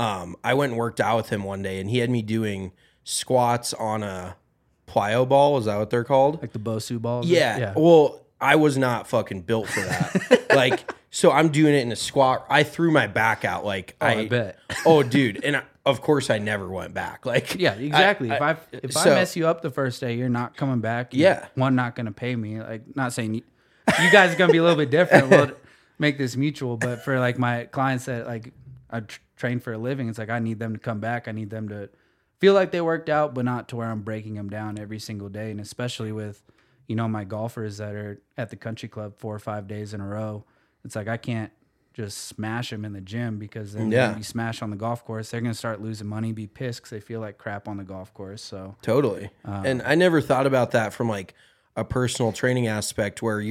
Speaker 2: I went and worked out with him one day, and he had me doing squats on a plyo ball. Is that what they're called?
Speaker 3: Like the Bosu balls?
Speaker 2: Yeah. Well, I was not fucking built for that. Like, so I'm doing it in a squat. I threw my back out. Like,
Speaker 3: I bet.
Speaker 2: Oh, dude. And of course, I never went back. Like,
Speaker 3: yeah, exactly. If I mess you up the first day, you're not coming back. One, not going to pay me. Like, not saying you guys are going to be a little bit different. We'll make this mutual. But for like my clients that like I train for a living, it's like I need them to come back. I need them to feel like they worked out, but not to where I'm breaking them down every single day. And especially with, you know, my golfers that are at the country club 4 or 5 days in a row, it's like I can't just smash them in the gym because then they're going to be smashed on the golf course. They're going to start losing money, be pissed because they feel like crap on the golf course. So
Speaker 2: totally. And I never thought about that from like a personal training aspect where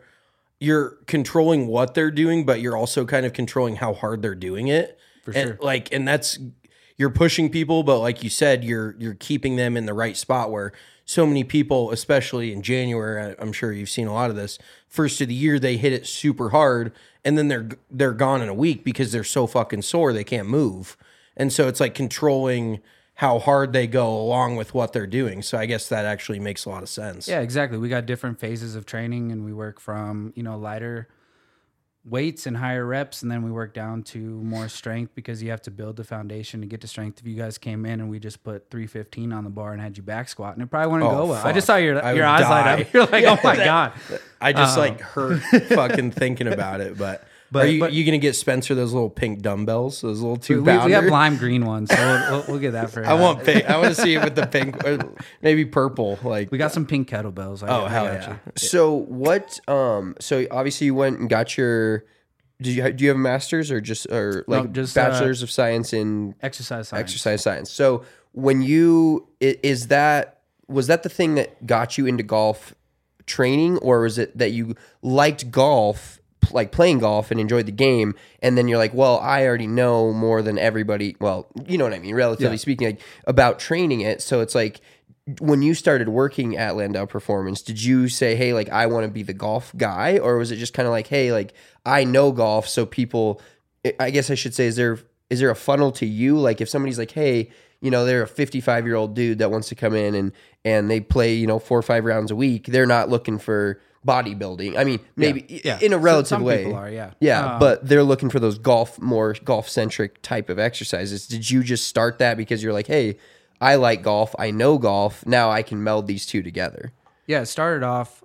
Speaker 2: you're controlling what they're doing, but you're also kind of controlling how hard they're doing it.
Speaker 3: For sure.
Speaker 2: And that's, you're pushing people, but like you said, you're keeping them in the right spot where so many people, especially in January, I'm sure you've seen a lot of this, first of the year, they hit it super hard and then they're gone in a week because they're so fucking sore they can't move. And so it's like controlling how hard they go along with what they're doing. So I guess that actually makes a lot of sense.
Speaker 3: yeah, exactly. We got different phases of training and we work from, you know, lighter weights and higher reps, and then we work down to more strength because you have to build the foundation to get to strength. If you guys came in and we just put 315 on the bar and had you back squatting, it probably wouldn't go well. I just saw your
Speaker 2: would
Speaker 3: eyes light
Speaker 2: die.
Speaker 3: up. You're like, oh my God.
Speaker 2: I just hurt fucking thinking about it. But are you going to get Spencer those little pink dumbbells, those little 2-pounder?
Speaker 3: We have lime green ones, so we'll get that for
Speaker 2: I want pink. I want to see it with the pink, or maybe purple. Like
Speaker 3: we got some pink kettlebells.
Speaker 2: hell
Speaker 3: I got
Speaker 2: yeah.
Speaker 3: you.
Speaker 1: So what? So obviously you went and got your. Do you have a master's or just
Speaker 3: just,
Speaker 1: bachelor's of science in
Speaker 3: Exercise science.
Speaker 1: exercise science? So when you was that the thing that got you into golf training, or was it that you liked golf, like playing golf and enjoyed the game, and then you're like, well, I already know more than everybody. Well, you know what I mean, relatively speaking, like about training it. So it's like, when you started working at Landau Performance, did you say, hey, like, I want to be the golf guy? Or was it just kind of like, hey, like, I know golf, so people, I guess I should say, is there a funnel to you? Like, if somebody's like, hey, you know, they're a 55-year-old dude that wants to come in and they play, you know, 4 or 5 rounds a week, they're not looking for bodybuilding. I mean, maybe in a relative
Speaker 3: some
Speaker 1: way.
Speaker 3: people are, yeah.
Speaker 1: Yeah, but they're looking for those more golf-centric type of exercises. Did you just start that because you're like, hey, I like golf, I know golf, now I can meld these two together?
Speaker 3: Yeah, it started off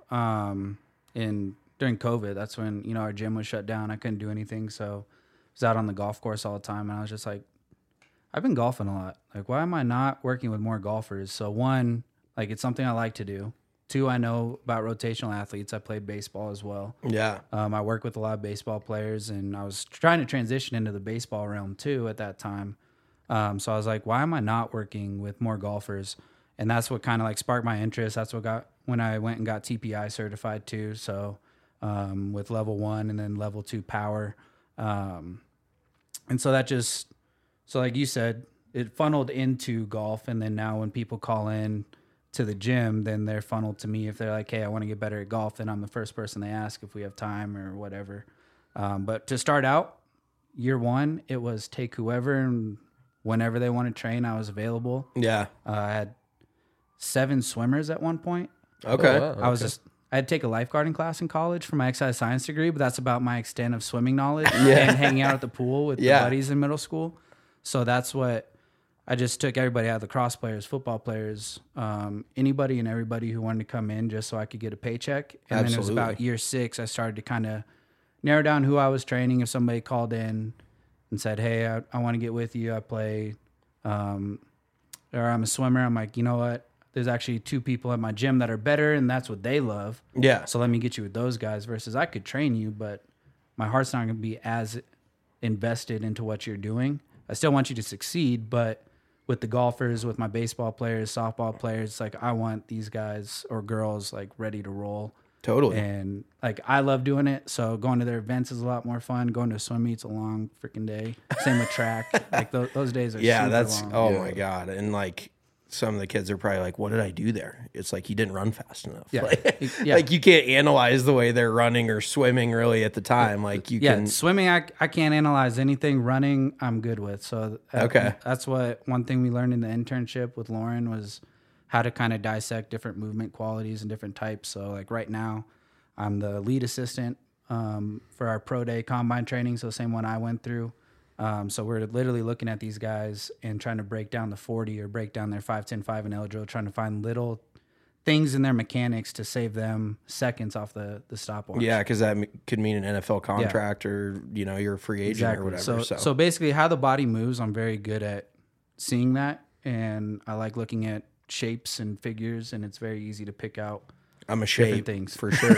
Speaker 3: during COVID. That's when, you know, our gym was shut down. I couldn't do anything, so I was out on the golf course all the time, and I was just like, I've been golfing a lot. Like, why am I not working with more golfers? So one, like, it's something I like to do. Two, I know about rotational athletes. I played baseball as well.
Speaker 2: Yeah.
Speaker 3: I work with a lot of baseball players, and I was trying to transition into the baseball realm too at that time. So I was like, why am I not working with more golfers? And that's what kind of like sparked my interest. That's what got when I went and got TPI certified too. So with level 1 and then level 2 power. And so that just, so like you said, it funneled into golf. And then now when people call in to the gym, then they're funneled to me. If they're like, hey, I want to get better at golf, then I'm the first person they ask if we have time or whatever. But to start out, year 1, it was take whoever, and whenever they want to train, I was available.
Speaker 2: Yeah.
Speaker 3: I had 7 swimmers at one point.
Speaker 2: Okay.
Speaker 1: Oh, wow.
Speaker 3: I had to take a lifeguarding class in college for my exercise science degree, but that's about my extent of swimming knowledge and hanging out at the pool with the buddies in middle school. So that's what I just took everybody out, lacrosse players, football players, anybody and everybody who wanted to come in just so I could get a paycheck. And then it was about year 6, I started to kind of narrow down who I was training. If somebody called in and said, hey, I want to get with you, I play, or I'm a swimmer, I'm like, you know what? There's actually 2 people at my gym that are better, and that's what they love.
Speaker 2: Yeah.
Speaker 3: So let me get you with those guys versus I could train you, but my heart's not going to be as invested into what you're doing. I still want you to succeed, but with the golfers, with my baseball players, softball players, it's like I want these guys or girls like ready to roll.
Speaker 2: Totally.
Speaker 3: And like I love doing it, so going to their events is a lot more fun. Going to a swim meet's a long freaking day. Same with track. Like those days are super
Speaker 2: that's
Speaker 3: long.
Speaker 2: oh my God. And like some of the kids are probably like, what did I do there? It's like you didn't run fast enough.
Speaker 3: Yeah.
Speaker 2: Like you can't analyze the way they're running or swimming really at the time. Like you can
Speaker 3: swimming, I can't analyze anything. Running, I'm good with. So that's what one thing we learned in the internship with Lauren was how to kind of dissect different movement qualities and different types. So like right now, I'm the lead assistant for our pro day combine training. So same one I went through. So we're literally looking at these guys and trying to break down the 40 or break down their 5-10-5 and L drill, trying to find little things in their mechanics to save them seconds off the stopwatch.
Speaker 2: Yeah, because that could mean an NFL contract or, you know, you're a free agent or whatever.
Speaker 3: So basically how the body moves, I'm very good at seeing that. And I like looking at shapes and figures, and it's very easy to pick out
Speaker 2: I'm a shape
Speaker 3: things.
Speaker 2: for sure.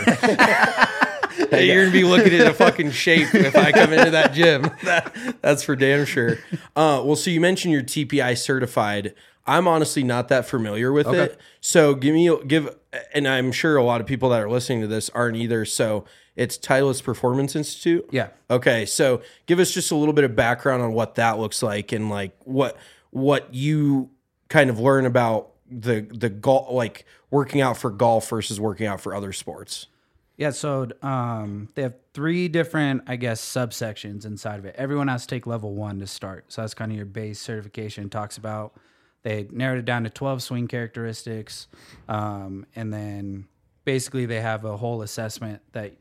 Speaker 2: Hey, you're going to be looking at a fucking shape if I come into that gym. That's for damn sure. Well, so you mentioned you're TPI certified. I'm honestly not that familiar with it. So give, and I'm sure a lot of people that are listening to this aren't either. So it's Titleist Performance Institute?
Speaker 3: Yeah.
Speaker 2: Okay. So give us just a little bit of background on what that looks like and like what you kind of learn about the golf, like working out for golf versus working out for other sports.
Speaker 3: Yeah, so they have 3 different, I guess, subsections inside of it. Everyone has to take level 1 to start. So that's kind of your base certification. It talks about, they narrowed it down to 12 swing characteristics. And then basically they have a whole assessment that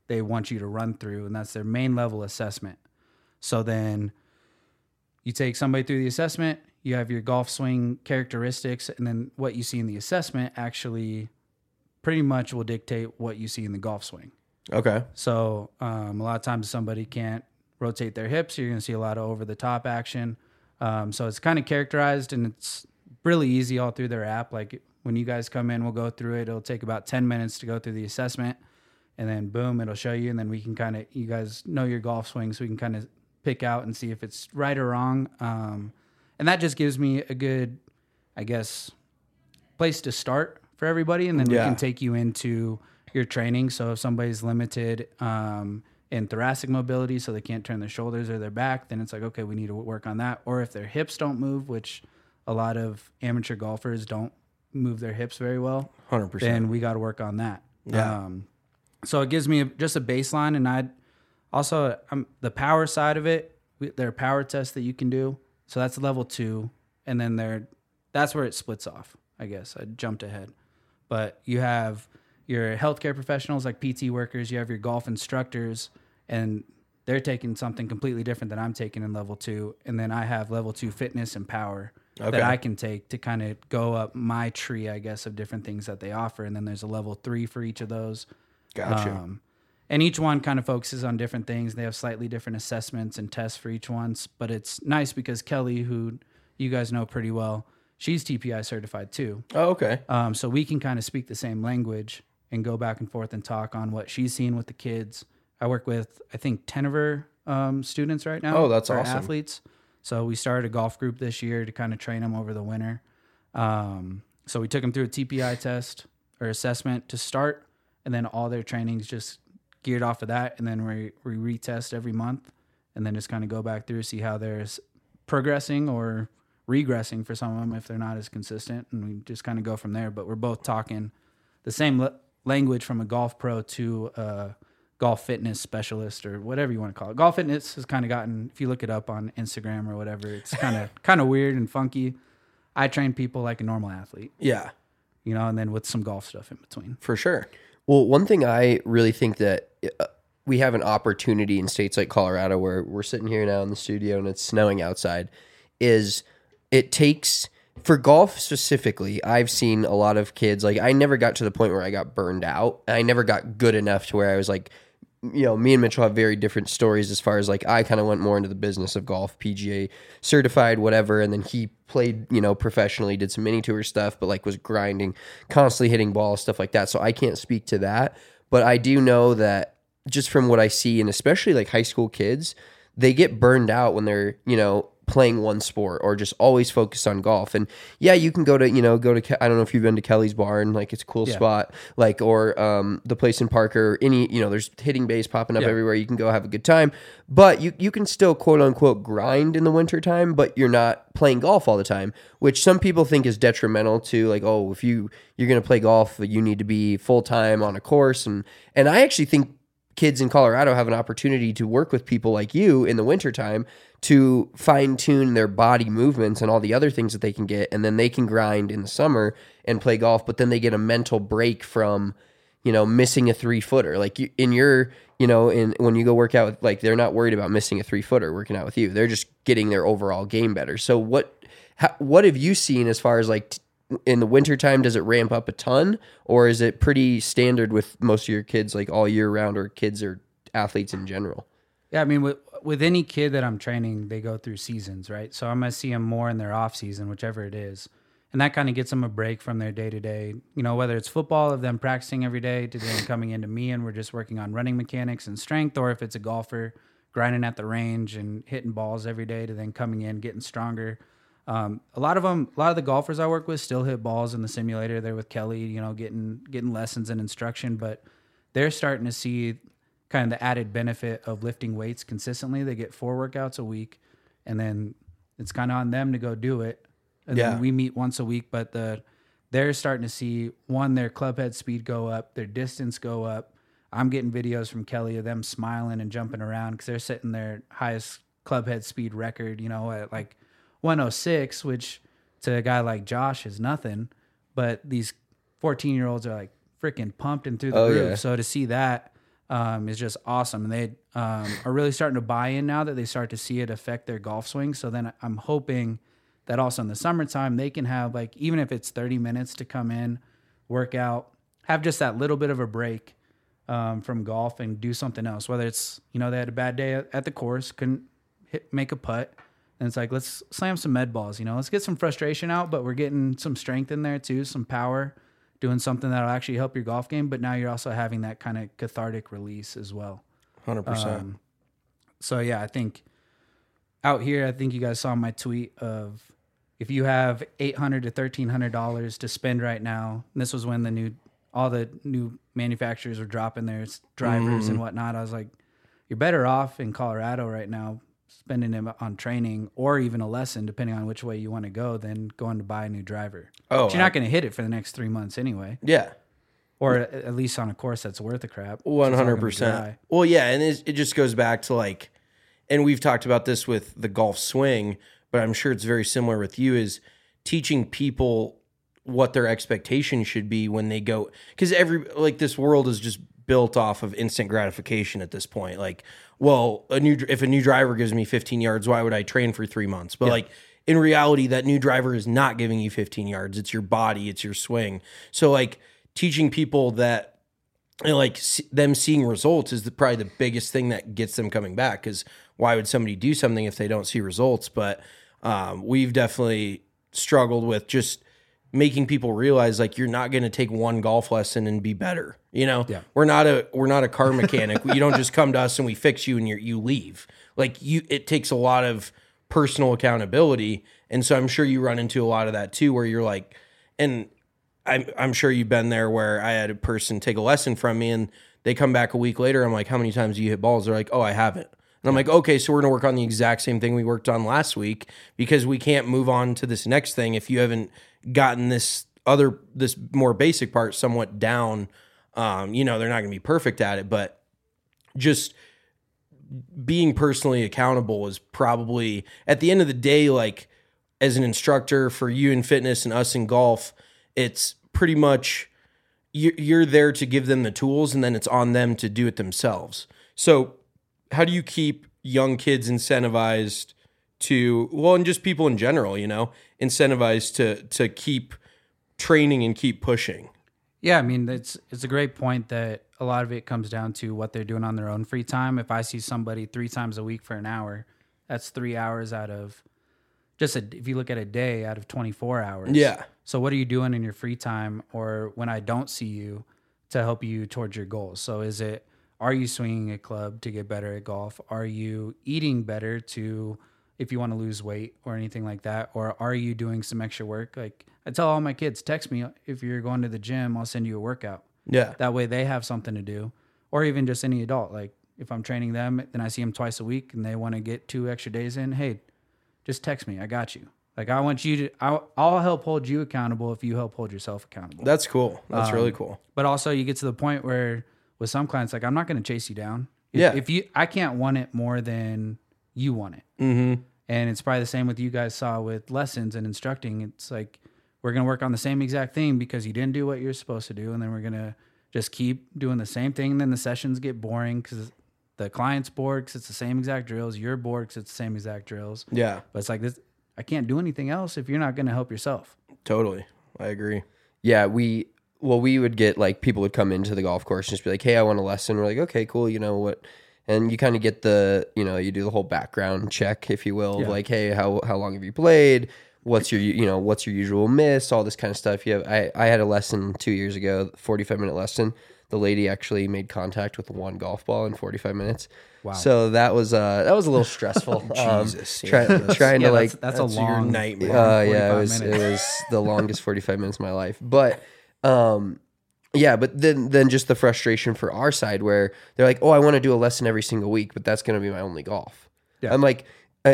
Speaker 3: they want you to run through, and that's their main level assessment. So then you take somebody through the assessment, you have your golf swing characteristics, and then what you see in the assessment actually pretty much will dictate what you see in the golf swing.
Speaker 2: Okay.
Speaker 3: So a lot of times somebody can't rotate their hips. You're going to see a lot of over-the-top action. So it's kind of characterized, and it's really easy all through their app. Like when you guys come in, we'll go through it. It'll take about 10 minutes to go through the assessment, and then boom, it'll show you, and then we can kind of, you guys know your golf swing, so we can kind of pick out and see if it's right or wrong. And that just gives me a good, I guess, place to start for everybody, and then we can take you into your training. So if somebody's limited in thoracic mobility, so they can't turn their shoulders or their back, then it's like, okay, we need to work on that. Or if their hips don't move, which a lot of amateur golfers don't move their hips very well,
Speaker 2: 100%.
Speaker 3: then we got to work on that.
Speaker 2: Yeah.
Speaker 3: So it gives me just a baseline, and I'd also the power side of it. There are power tests that you can do. So that's level 2, and then that's where it splits off. I guess I jumped ahead, but you have your healthcare professionals like PT workers. You have your golf instructors, and they're taking something completely different than I'm taking in level 2. And then I have level 2 fitness and power that I can take to kind of go up my tree, I guess, of different things that they offer. And then there's a level 3 for each of those.
Speaker 2: Gotcha.
Speaker 3: And each one kind of focuses on different things. They have slightly different assessments and tests for each one. But it's nice because Kelly, who you guys know pretty well, she's TPI certified too.
Speaker 2: Oh, okay.
Speaker 3: So we can kind of speak the same language and go back and forth and talk on what she's seeing with the kids. I work with, I think, 10 of her students right now.
Speaker 2: Oh, that's
Speaker 3: or
Speaker 2: awesome.
Speaker 3: Athletes. So we started a golf group this year to kind of train them over the winter. So we took them through a TPI test or assessment to start, and then all their trainings just geared off of that. And then we retest every month, and then just kind of go back through, see how they're progressing or regressing for some of them if they're not as consistent. And we just kind of go from there. But we're both talking the same language from a golf pro to a golf fitness specialist or whatever you want to call it. Golf fitness has kind of gotten, if you look it up on Instagram or whatever, it's kind of weird and funky. I train people like a normal athlete,
Speaker 2: Yeah,
Speaker 3: and then with some golf stuff in between.
Speaker 2: for sure.
Speaker 1: Well, one thing I really think that we have an opportunity in states like Colorado, where we're sitting here now in the studio and it's snowing outside, is it takes, for golf specifically, I've seen a lot of kids, like I never got to the point where I got burned out. I never got good enough to where I was like, me and Mitchell have very different stories as far as like I kind of went more into the business of golf, PGA certified, whatever. And then he played, professionally, did some mini tour stuff, but like was grinding, constantly hitting balls, stuff like that. So I can't speak to that. But I do know that just from what I see, and especially like high school kids, they get burned out when they're, playing one sport or just always focused on golf. And yeah, you can go to, I don't know if you've been to Kelly's Barn, like it's a cool spot, like, or the place in Parker, there's hitting bays popping up everywhere. You can go have a good time, but you can still quote unquote grind in the winter time, but you're not playing golf all the time, which some people think is detrimental to like, oh, if you're going to play golf, you need to be full time on a course. And I actually think kids in Colorado have an opportunity to work with people like you in the wintertime to fine tune their body movements and all the other things that they can get. And then they can grind in the summer and play golf, but then they get a mental break from, missing a 3-footer. Like when you go work out, like they're not worried about missing a 3-footer working out with you. They're just getting their overall game better. So what have you seen as far as like in the wintertime? Does it ramp up a ton, or is it pretty standard with most of your kids, like all year round, or kids or athletes in general?
Speaker 3: Yeah, I mean, with any kid that I'm training, they go through seasons, right? So I'm going to see them more in their off season, whichever it is. And that kind of gets them a break from their day-to-day, whether it's football, of them practicing every day, to then coming into me and we're just working on running mechanics and strength, or if it's a golfer grinding at the range and hitting balls every day, to then coming in, getting stronger. A lot of the golfers I work with still hit balls in the simulator. They're with Kelly, getting lessons and instruction, but they're starting to see kind of the added benefit of lifting weights consistently. They get 4 workouts a week, and then it's kind of on them to go do it. And then we meet once a week, but they're starting to see, one, their club head speed go up, their distance go up. I'm getting videos from Kelly of them smiling and jumping around because they're setting their highest club head speed record, at like 106, which to a guy like Josh is nothing, but these 14-year-olds are like freaking pumped and through the roof. Yeah. So to see that, is just awesome. And they are really starting to buy in now that they start to see it affect their golf swing. So then I'm hoping that also in the summertime, they can have, like, even if it's 30 minutes to come in, work out, have just that little bit of a break from golf and do something else. Whether it's, they had a bad day at the course, couldn't make a putt. And it's like, let's slam some med balls, let's get some frustration out, but we're getting some strength in there too, some power, doing something that'll actually help your golf game. But now you're also having that kind of cathartic release as well.
Speaker 2: 100%.
Speaker 3: So yeah, I think out here, I think you guys saw my tweet of, if you have $800 to $1,300 to spend right now, and this was when all the new manufacturers were dropping their drivers and whatnot. I was like, you're better off in Colorado right now spending them on training or even a lesson, depending on which way you want to go, than going to buy a new driver.
Speaker 2: Oh,
Speaker 3: but you're not going to hit it for the next 3 months anyway.
Speaker 2: Yeah.
Speaker 3: Or at least on a course that's worth a crap.
Speaker 2: 100%. Well, yeah, and it just goes back to, like, and we've talked about this with the golf swing, but I'm sure it's very similar with you, is teaching people what their expectation should be when they go, because this world is just built off of instant gratification at this point. Like, well, if a new driver gives me 15 yards, why would I train for 3 months? But like, in reality, that new driver is not giving you 15 yards. It's your body, it's your swing. So like, teaching people that, them seeing results is probably the biggest thing that gets them coming back. Because why would somebody do something if they don't see results? But we've definitely struggled with just making people realize, like, you're not going to take one golf lesson and be better. We're not a car mechanic. You don't just come to us and we fix you and you leave. Like, it takes a lot of personal accountability. And so I'm sure you run into a lot of that too, where you're like, and I'm sure you've been there, where I had a person take a lesson from me and they come back a week later. I'm like, how many times do you hit balls? They're like, oh, I haven't. And I'm like, okay, so we're going to work on the exact same thing we worked on last week, because we can't move on to this next thing if you haven't gotten this more basic part somewhat down. They're not going to be perfect at it, but just being personally accountable is probably, at the end of the day, like, as an instructor for you in fitness and us in golf, it's pretty much you're there to give them the tools, and then it's on them to do it themselves. So how do you keep young kids incentivized to, and just people in general, incentivized to keep training and keep pushing?
Speaker 3: Yeah, I mean, it's a great point that a lot of it comes down to what they're doing on their own free time. If I see somebody 3 times a week for an hour, that's 3 hours out of if you look at a day, out of 24 hours.
Speaker 2: Yeah.
Speaker 3: So what are you doing in your free time, or when I don't see you, to help you towards your goals? So are you swinging a club to get better at golf? Are you eating better if you want to lose weight or anything like that? Or are you doing some extra work? Like, I tell all my kids, text me if you're going to the gym, I'll send you a workout.
Speaker 2: Yeah.
Speaker 3: That way they have something to do. Or even just any adult. Like, if I'm training them, then I see them twice a week and they want to get 2 extra days in, hey, just text me. I got you. Like, I want you to, I'll help hold you accountable if you help hold yourself accountable.
Speaker 2: That's cool. That's really cool.
Speaker 3: But also, you get to the point where with some clients, like, I'm not going to chase you down.
Speaker 2: Yeah.
Speaker 3: I can't want it more than you want it. Mm-hmm. And it's probably the same with you guys saw with lessons and instructing. It's like, we're going to work on the same exact thing because you didn't do what you're supposed to do. And then we're going to just keep doing the same thing. And then the sessions get boring because the client's bored because it's the same exact drills. You're bored because it's the same exact drills.
Speaker 2: Yeah.
Speaker 3: But it's like this. I can't do anything else if you're not going to help yourself.
Speaker 2: Totally. I agree.
Speaker 1: Yeah, we would get, like, people would come into the golf course and just be like, hey, I want a lesson. We're like, okay, cool. You know what? And you kind of get you do the whole background check, if you will, of like, hey, how long have you played? What's your usual miss? All this kind of stuff. I had a lesson 2 years ago, 45-minute lesson. The lady actually made contact with one golf ball in 45 minutes. Wow. So that was a little stressful.
Speaker 2: Jesus.
Speaker 1: Trying to, like,
Speaker 3: that's a long
Speaker 2: nightmare.
Speaker 1: Yeah, it was the longest 45 minutes of my life. But but then just the frustration for our side where they're like, oh, I want to do a lesson every single week, but that's going to be my only golf. Yeah. I'm like,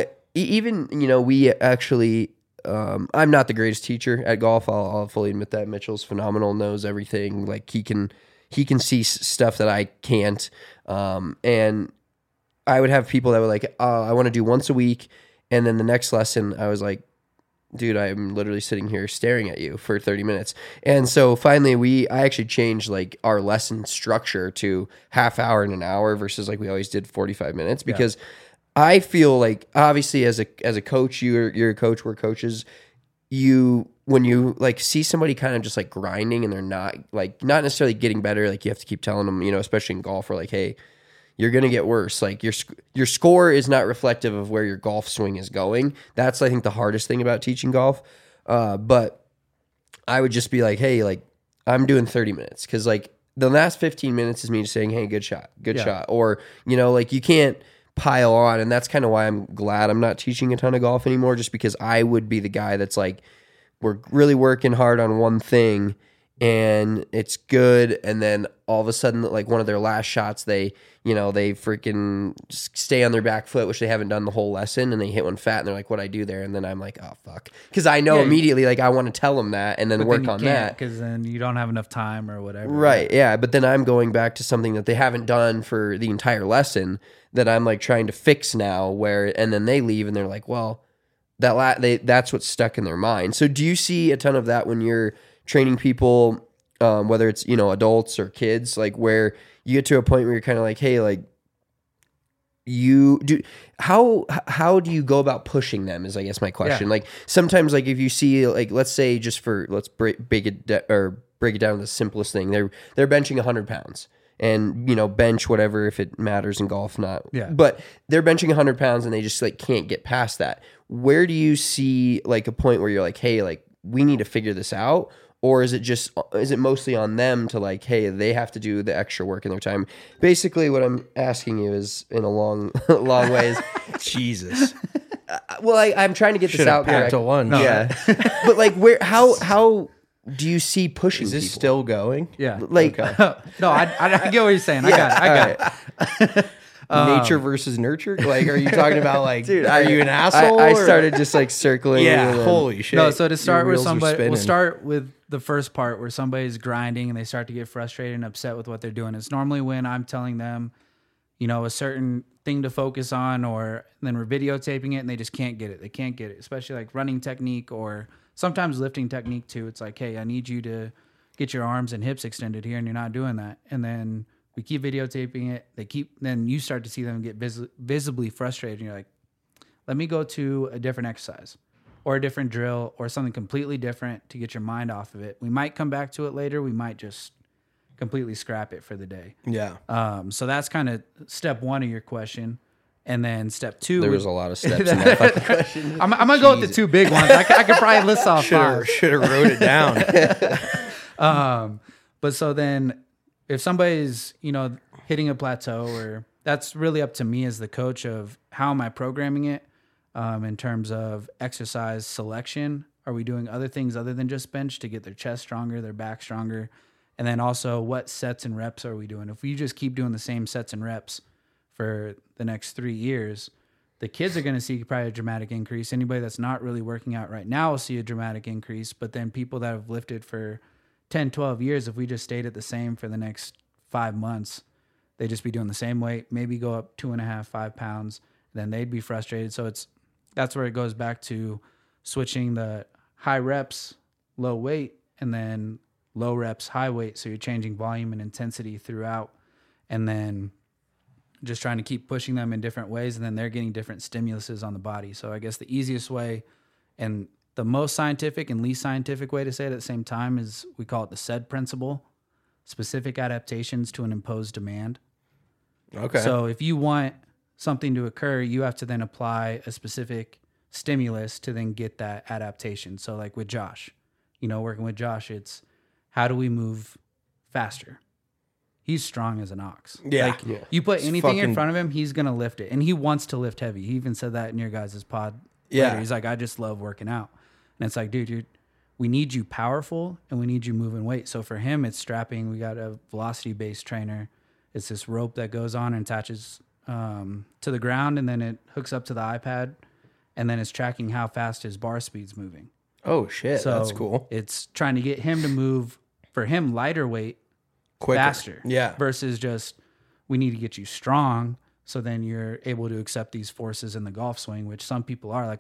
Speaker 1: we actually, I'm not the greatest teacher at golf. I'll fully admit that. Mitchell's phenomenal, knows everything. Like, he can see stuff that I can't. And I would have people that were like, I want to do once a week. And then the next lesson, I was like, dude, I'm literally sitting here staring at you for 30 minutes. And so finally I actually changed like our lesson structure to half hour and an hour versus like we always did 45 minutes because I feel like obviously as a coach, you're a coach, we're coaches. When you like see somebody kind of just like grinding and they're not necessarily getting better, like you have to keep telling them, especially in golf, we're like, hey, you're going to get worse. Like your score is not reflective of where your golf swing is going. That's, I think, the hardest thing about teaching golf. But I would just be like, hey, like I'm doing 30 minutes. Cause like the last 15 minutes is me just saying, hey, good shot. Or, like you can't pile on. And that's kind of why I'm glad I'm not teaching a ton of golf anymore, just because I would be the guy that's like, we're really working hard on one thing and it's good. And then all of a sudden, like one of their last shots, they freaking stay on their back foot, which they haven't done the whole lesson, and they hit one fat and they're like, what'd I do there? And then I'm like, oh, fuck. Because I know immediately, like, I want to tell them that and then work on that.
Speaker 3: Because then you don't have enough time or whatever.
Speaker 1: Right, yeah. But then I'm going back to something that they haven't done for the entire lesson that I'm, like, trying to fix now, and then they leave and they're like, well, that's what's stuck in their mind. So do you see a ton of that when you're training people, whether it's, adults or kids, like where you get to a point where you're kind of like, hey, like how do you go about pushing them is, I guess, my question.
Speaker 3: Yeah.
Speaker 1: Like sometimes, like if you see, like, let's say let's break it down to the simplest thing. They're benching 100 pounds and, bench whatever, if it matters in golf, not.
Speaker 3: Yeah.
Speaker 1: But they're benching 100 pounds and they just like can't get past that. Where do you see like a point where you're like, hey, like we need to figure this out? Or is it mostly on them to like, hey, they have to do the extra work in their time? Basically, what I'm asking you is, in a long way, is
Speaker 2: Jesus.
Speaker 1: Well, I'm trying to get this out there.
Speaker 2: To lunch.
Speaker 1: Yeah, but like, how do you see pushing?
Speaker 2: Is this
Speaker 1: people?
Speaker 2: still going?
Speaker 3: Yeah.
Speaker 1: Like,
Speaker 3: No, I get what you're saying. I got it.
Speaker 2: Nature versus nurture? Like, are you talking about like,
Speaker 1: dude,
Speaker 2: are you an asshole?
Speaker 1: I
Speaker 2: or-
Speaker 1: started just like circling.
Speaker 2: Yeah,
Speaker 1: and then-
Speaker 2: holy shit.
Speaker 3: No, so to start
Speaker 2: Your
Speaker 3: with
Speaker 2: wheels are
Speaker 3: somebody, we'll
Speaker 2: spinning.
Speaker 3: start with the first part where somebody's grinding and they start to get frustrated and upset with what they're doing. It's normally when I'm telling them, a certain thing to focus on, or then we're videotaping it and they just can't get it. They can't get it, especially like running technique or sometimes lifting technique too. It's like, hey, I need you to get your arms and hips extended here, and you're not doing that. And then we keep videotaping it. Then you start to see them get visibly frustrated. And you're like, let me go to a different exercise or a different drill or something completely different to get your mind off of it. We might come back to it later. We might just completely scrap it for the day.
Speaker 2: Yeah.
Speaker 3: So that's kind of step one of your question. And then step two.
Speaker 1: There was a lot of steps in that fucking question.
Speaker 3: I'm going to go with the two big ones. I could probably list off five.
Speaker 2: Should have wrote it down.
Speaker 3: But so then if somebody's, hitting a plateau, or that's really up to me as the coach of how am I programming it in terms of exercise selection. Are we doing other things other than just bench to get their chest stronger, their back stronger? And then also what sets and reps are we doing? If we just keep doing the same sets and reps for the next 3 years, the kids are going to see probably a dramatic increase. Anybody that's not really working out right now will see a dramatic increase. But then people that have lifted for 10, 12 years, if we just stayed at the same for the next 5 months, they'd just be doing the same weight, maybe go up 2.5, 5 pounds, then they'd be frustrated. So that's where it goes back to switching the high reps, low weight, and then low reps, high weight. So you're changing volume and intensity throughout, and then just trying to keep pushing them in different ways, and then they're getting different stimuluses on the body. So I guess the easiest way and the most scientific and least scientific way to say it at the same time is we call it the SAID principle, specific adaptations to an imposed demand.
Speaker 2: Okay.
Speaker 3: So if you want something to occur, you have to then apply a specific stimulus to then get that adaptation. So like with Josh, working with Josh, it's how do we move faster? He's strong as an ox.
Speaker 2: Yeah.
Speaker 3: You put anything in
Speaker 2: fucking-
Speaker 3: front of him, he's going to lift it. And he wants to lift heavy. He even said that in your guys' pod.
Speaker 2: Yeah.
Speaker 3: Later. He's like, I just love working out. And it's like, dude, we need you powerful and we need you moving weight. So for him, it's strapping. We got a velocity-based trainer. It's this rope that goes on and attaches to the ground, and then it hooks up to the iPad, and then it's tracking how fast his bar speed's moving.
Speaker 2: Oh shit,
Speaker 3: So
Speaker 2: that's cool.
Speaker 3: It's trying to get him to move, for him, lighter weight,
Speaker 2: Quicker.
Speaker 3: faster.
Speaker 2: Yeah.
Speaker 3: Versus just, we need to get you strong so then you're able to accept these forces in the golf swing, which some people are. Like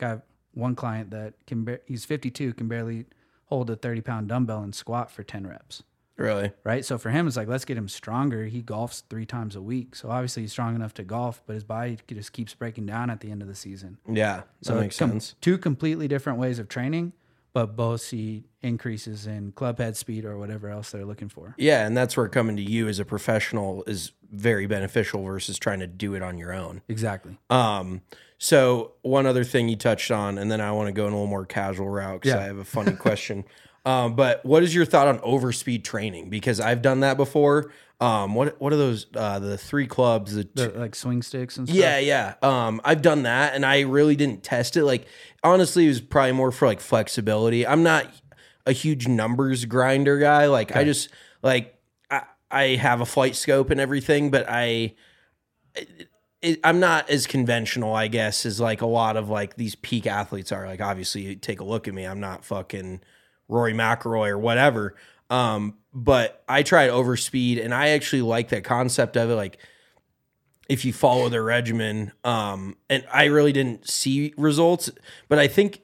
Speaker 3: one client that he's 52, can barely hold a 30-pound dumbbell and squat for 10 reps.
Speaker 2: Really?
Speaker 3: Right. So for him, it's like, let's get him stronger. He golfs 3 times a week. So obviously he's strong enough to golf, but his body just keeps breaking down at the end of the season.
Speaker 2: Yeah.
Speaker 3: So
Speaker 2: That makes sense.
Speaker 3: 2 completely different ways of training, but both see increases in club head speed or whatever else they're looking for.
Speaker 2: Yeah. And that's where coming to you as a professional is very beneficial versus trying to do it on your own.
Speaker 3: Exactly.
Speaker 2: So one other thing you touched on, and then I want to go in a little more casual route because
Speaker 3: Yeah.
Speaker 2: I have a funny question. But what is your thought on overspeed training? Because I've done that before. What are those? The 3 clubs?
Speaker 3: The, like swing sticks and stuff.
Speaker 2: Yeah. I've done that, and I really didn't test it. Like, honestly, it was probably more for like flexibility. I'm not a huge numbers grinder guy. Like, I just like I have a flight scope and everything, but I'm not as conventional, I guess, as like a lot of like these peak athletes are. Like, obviously, you take a look at me. I'm not fucking Rory McIlroy or whatever. But I tried overspeed, and I actually like that concept of it. Like, if you follow the regimen, and I really didn't see results, but I think,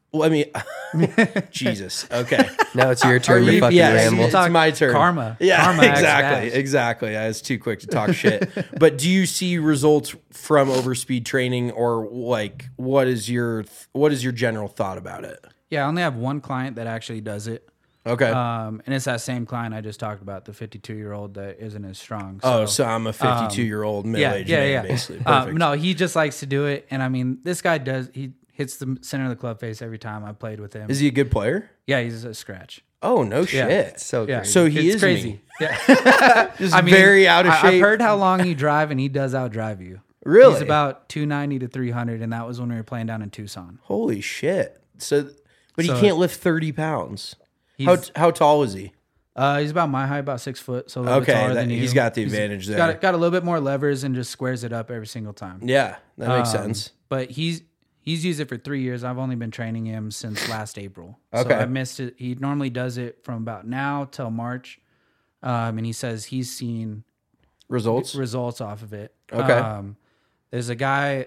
Speaker 2: Jesus. Okay.
Speaker 1: Now it's your turn to
Speaker 2: you-
Speaker 1: fucking
Speaker 2: yes,
Speaker 1: ramble.
Speaker 2: it's my turn.
Speaker 3: Karma.
Speaker 2: Yeah,
Speaker 3: Karma acts
Speaker 2: exactly.
Speaker 3: fast.
Speaker 2: Exactly. I was too quick to talk shit. But do you see results from overspeed training, or like what is your general thought about it?
Speaker 3: Yeah, I only have one client that actually does it.
Speaker 2: Okay.
Speaker 3: And it's that same client I just talked about, the 52-year-old that isn't as strong.
Speaker 2: So I'm a 52-year-old middle-aged man, basically. Perfect.
Speaker 3: No, he just likes to do it. And I mean, this guy he hits the center of the club face every time I played with him.
Speaker 2: Is he a good player?
Speaker 3: Yeah, he's a scratch.
Speaker 2: Oh, no shit.
Speaker 1: So
Speaker 3: Yeah.
Speaker 1: crazy.
Speaker 2: So he
Speaker 3: It's
Speaker 2: is
Speaker 3: crazy.
Speaker 2: me.
Speaker 3: Yeah.
Speaker 2: Just very out of
Speaker 3: I've
Speaker 2: shape.
Speaker 3: heard how long you drive, and he does outdrive you.
Speaker 2: Really?
Speaker 3: He's about 290 to 300, and that was when we were playing down in Tucson.
Speaker 2: Holy shit. But he
Speaker 3: So-
Speaker 2: can't lift 30 pounds.
Speaker 3: He's,
Speaker 2: How tall is he?
Speaker 3: he's about my height, about 6 foot, so a little bit
Speaker 2: Okay,
Speaker 3: taller than you.
Speaker 2: he's got the advantage there.
Speaker 3: Got a little bit more levers and just squares it up every single time.
Speaker 2: Yeah, that makes sense.
Speaker 3: But he's used it for 3 years. I've only been training him since last April.
Speaker 2: Okay.
Speaker 3: So I missed it. He normally does it from about now till March. And he says he's seen
Speaker 2: Results?
Speaker 3: results off of it.
Speaker 2: Okay.
Speaker 3: There's a guy,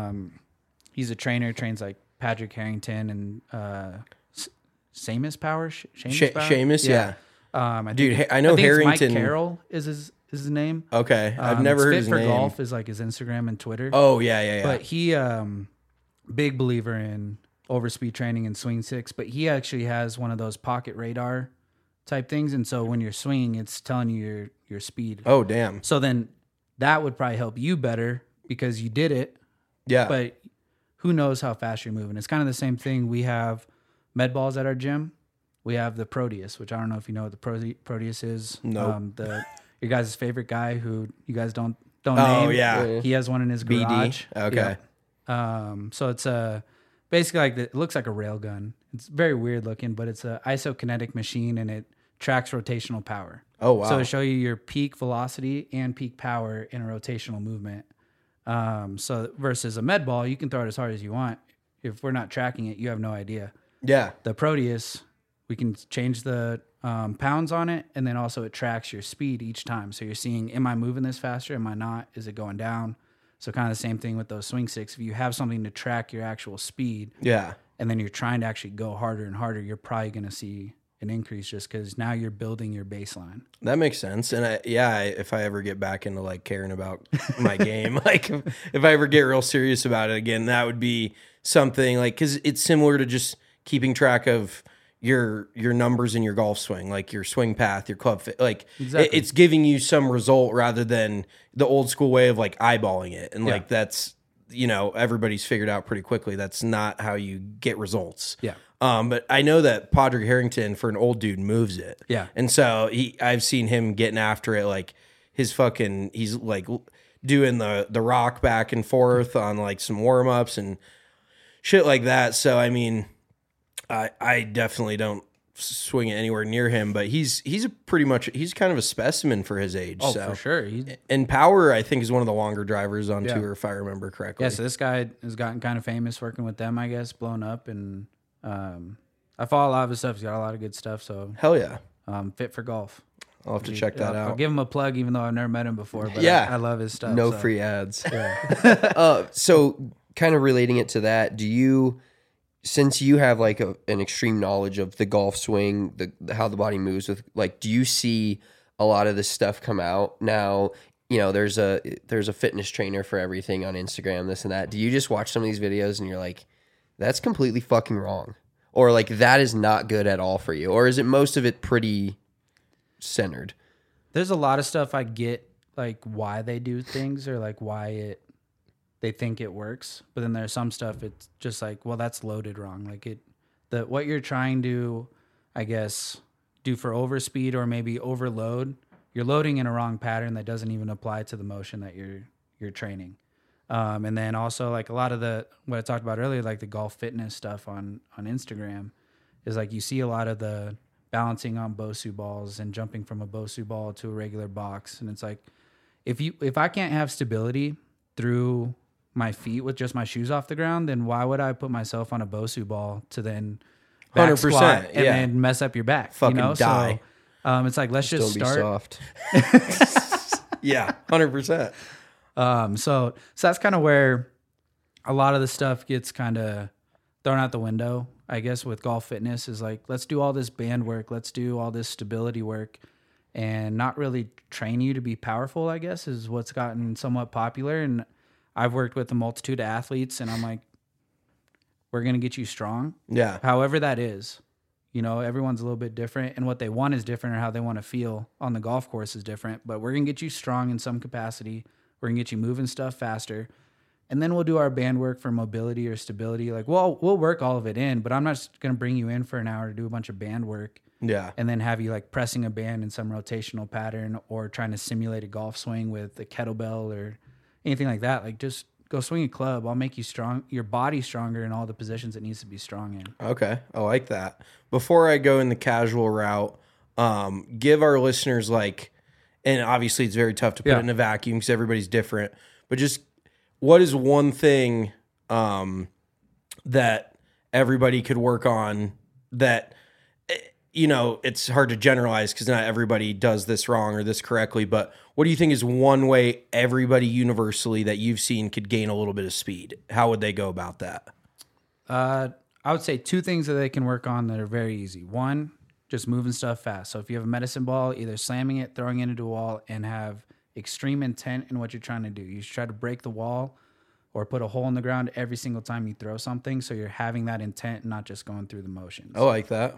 Speaker 3: he's a trainer, trains like Patrick Harrington and Seamus Power.
Speaker 2: Seamus, yeah. Dude, I know
Speaker 3: think it's
Speaker 2: Harrington.
Speaker 3: Mike Carroll is his name.
Speaker 2: Okay, I've never
Speaker 3: It's
Speaker 2: heard
Speaker 3: Fit
Speaker 2: his
Speaker 3: for
Speaker 2: name.
Speaker 3: Golf is like his Instagram and Twitter.
Speaker 2: Oh yeah.
Speaker 3: But he, big believer in overspeed training and swing sticks, but he actually has one of those pocket radar type things. And so when you're swinging, it's telling you your speed.
Speaker 2: Oh damn.
Speaker 3: So then that would probably help you better because you did it,
Speaker 2: Yeah.
Speaker 3: but who knows how fast you're moving. It's kind of the same thing. We have med balls at our gym. We have the Proteus, which I don't know if you know what the Proteus is.
Speaker 2: Nope.
Speaker 3: Your guys' favorite guy who you guys don't
Speaker 2: Oh,
Speaker 3: name.
Speaker 2: yeah.
Speaker 3: He has one in his garage.
Speaker 2: BD. Okay.
Speaker 3: Yeah. So it's basically like it looks like a rail gun. It's very weird looking, but it's a isokinetic machine and it tracks rotational power.
Speaker 2: Oh wow.
Speaker 3: So it'll show you your peak velocity and peak power in a rotational movement. So versus a med ball, you can throw it as hard as you want. If we're not tracking it, you have no idea.
Speaker 2: Yeah.
Speaker 3: The Proteus, we can change the pounds on it, and then also it tracks your speed each time. So you're seeing, am I moving this faster? Am I not? Is it going down? So kind of the same thing with those swing sticks. If you have something to track your actual speed,
Speaker 2: Yeah.
Speaker 3: and then you're trying to actually go harder and harder, you're probably going to see an increase just because now you're building your baseline.
Speaker 2: That makes sense. And if I ever get back into like caring about my game, like if I ever get real serious about it again, that would be something like, cause it's similar to just keeping track of your numbers in your golf swing, like your swing path, your club fit, like
Speaker 3: Exactly.
Speaker 2: it's giving you some result rather than the old school way of like eyeballing it. And like, that's, everybody's figured out pretty quickly. That's not how you get results.
Speaker 3: Yeah.
Speaker 2: But I know that Padraig Harrington, for an old dude, moves it.
Speaker 3: Yeah.
Speaker 2: And so I've seen him getting after it, like he's like doing the rock back and forth on like some warm ups and shit like that. So I mean, I definitely don't swing it anywhere near him, but he's kind of a specimen for his age.
Speaker 3: Oh,
Speaker 2: so.
Speaker 3: for sure.
Speaker 2: And Power, I think, is one of the longer drivers on tour, if I remember correctly.
Speaker 3: Yeah, so this guy has gotten kind of famous working with them, I guess, blown up. And I follow a lot of his stuff. He's got a lot of good stuff. So
Speaker 2: Hell yeah.
Speaker 3: Fit for Golf.
Speaker 2: I'll have to check that
Speaker 3: I'll
Speaker 2: out.
Speaker 3: give him a plug, even though I've never met him before. But
Speaker 2: Yeah.
Speaker 3: I love his stuff.
Speaker 1: No
Speaker 3: so.
Speaker 1: free ads. So kind of relating it to that, do you since you have like an extreme knowledge of the golf swing, how the body moves with, like, do you see a lot of this stuff come out now? You know, there's a fitness trainer for everything on Instagram, this and that. Do you just watch some of these videos and you're like, that's completely fucking wrong? Or like, that is not good at all for you? Or is it most of it pretty centered?
Speaker 3: There's a lot of stuff I get, like why they do things or like why they think it works. But then there's some stuff it's just like, well, that's loaded wrong. Like what you're trying to, I guess, do for overspeed or maybe overload, you're loading in a wrong pattern that doesn't even apply to the motion that you're training. And then also like a lot of what I talked about earlier, like the golf fitness stuff on Instagram is like, you see a lot of the balancing on Bosu balls and jumping from a Bosu ball to a regular box. And it's like, if I can't have stability through my feet with just my shoes off the ground, then why would I put myself on a Bosu ball to then back
Speaker 2: 100%,
Speaker 3: squat and
Speaker 2: yeah.
Speaker 3: then mess up your back?
Speaker 2: Fucking
Speaker 3: you know?
Speaker 2: die.
Speaker 3: So it's like, let's just
Speaker 1: Don't
Speaker 3: start.
Speaker 1: be soft.
Speaker 2: Yeah, 100%.
Speaker 3: So that's kind of where a lot of the stuff gets kind of thrown out the window, I guess, with golf fitness is like, let's do all this band work. Let's do all this stability work and not really train you to be powerful, I guess, is what's gotten somewhat popular. And I've worked with a multitude of athletes and I'm like, we're going to get you strong.
Speaker 2: Yeah.
Speaker 3: However that is, you know, everyone's a little bit different and what they want is different or how they want to feel on the golf course is different, but we're going to get you strong in some capacity. We're going to get you moving stuff faster. And then we'll do our band work for mobility or stability. Like, well, we'll work all of it in, but I'm not just going to bring you in for an hour to do a bunch of band work.
Speaker 2: Yeah.
Speaker 3: And then have you like pressing a band in some rotational pattern or trying to simulate a golf swing with a kettlebell or anything like that. Like, just go swing a club. I'll make you strong, your body stronger in all the positions it needs to be strong in.
Speaker 2: Okay. I like that. Before I go in the casual route, give our listeners like, and obviously it's very tough to put it in a vacuum because everybody's different, but just what is one thing that everybody could work on that, you know, it's hard to generalize because not everybody does this wrong or this correctly, but what do you think is one way everybody universally that you've seen could gain a little bit of speed? How would they go about that?
Speaker 3: I would say two things that they can work on that are very easy. One, just moving stuff fast. So if you have a medicine ball, either slamming it, throwing it into a wall, and have extreme intent in what you're trying to do. You should try to break the wall or put a hole in the ground every single time you throw something, so you're having that intent, not just going through the motions.
Speaker 2: I like that.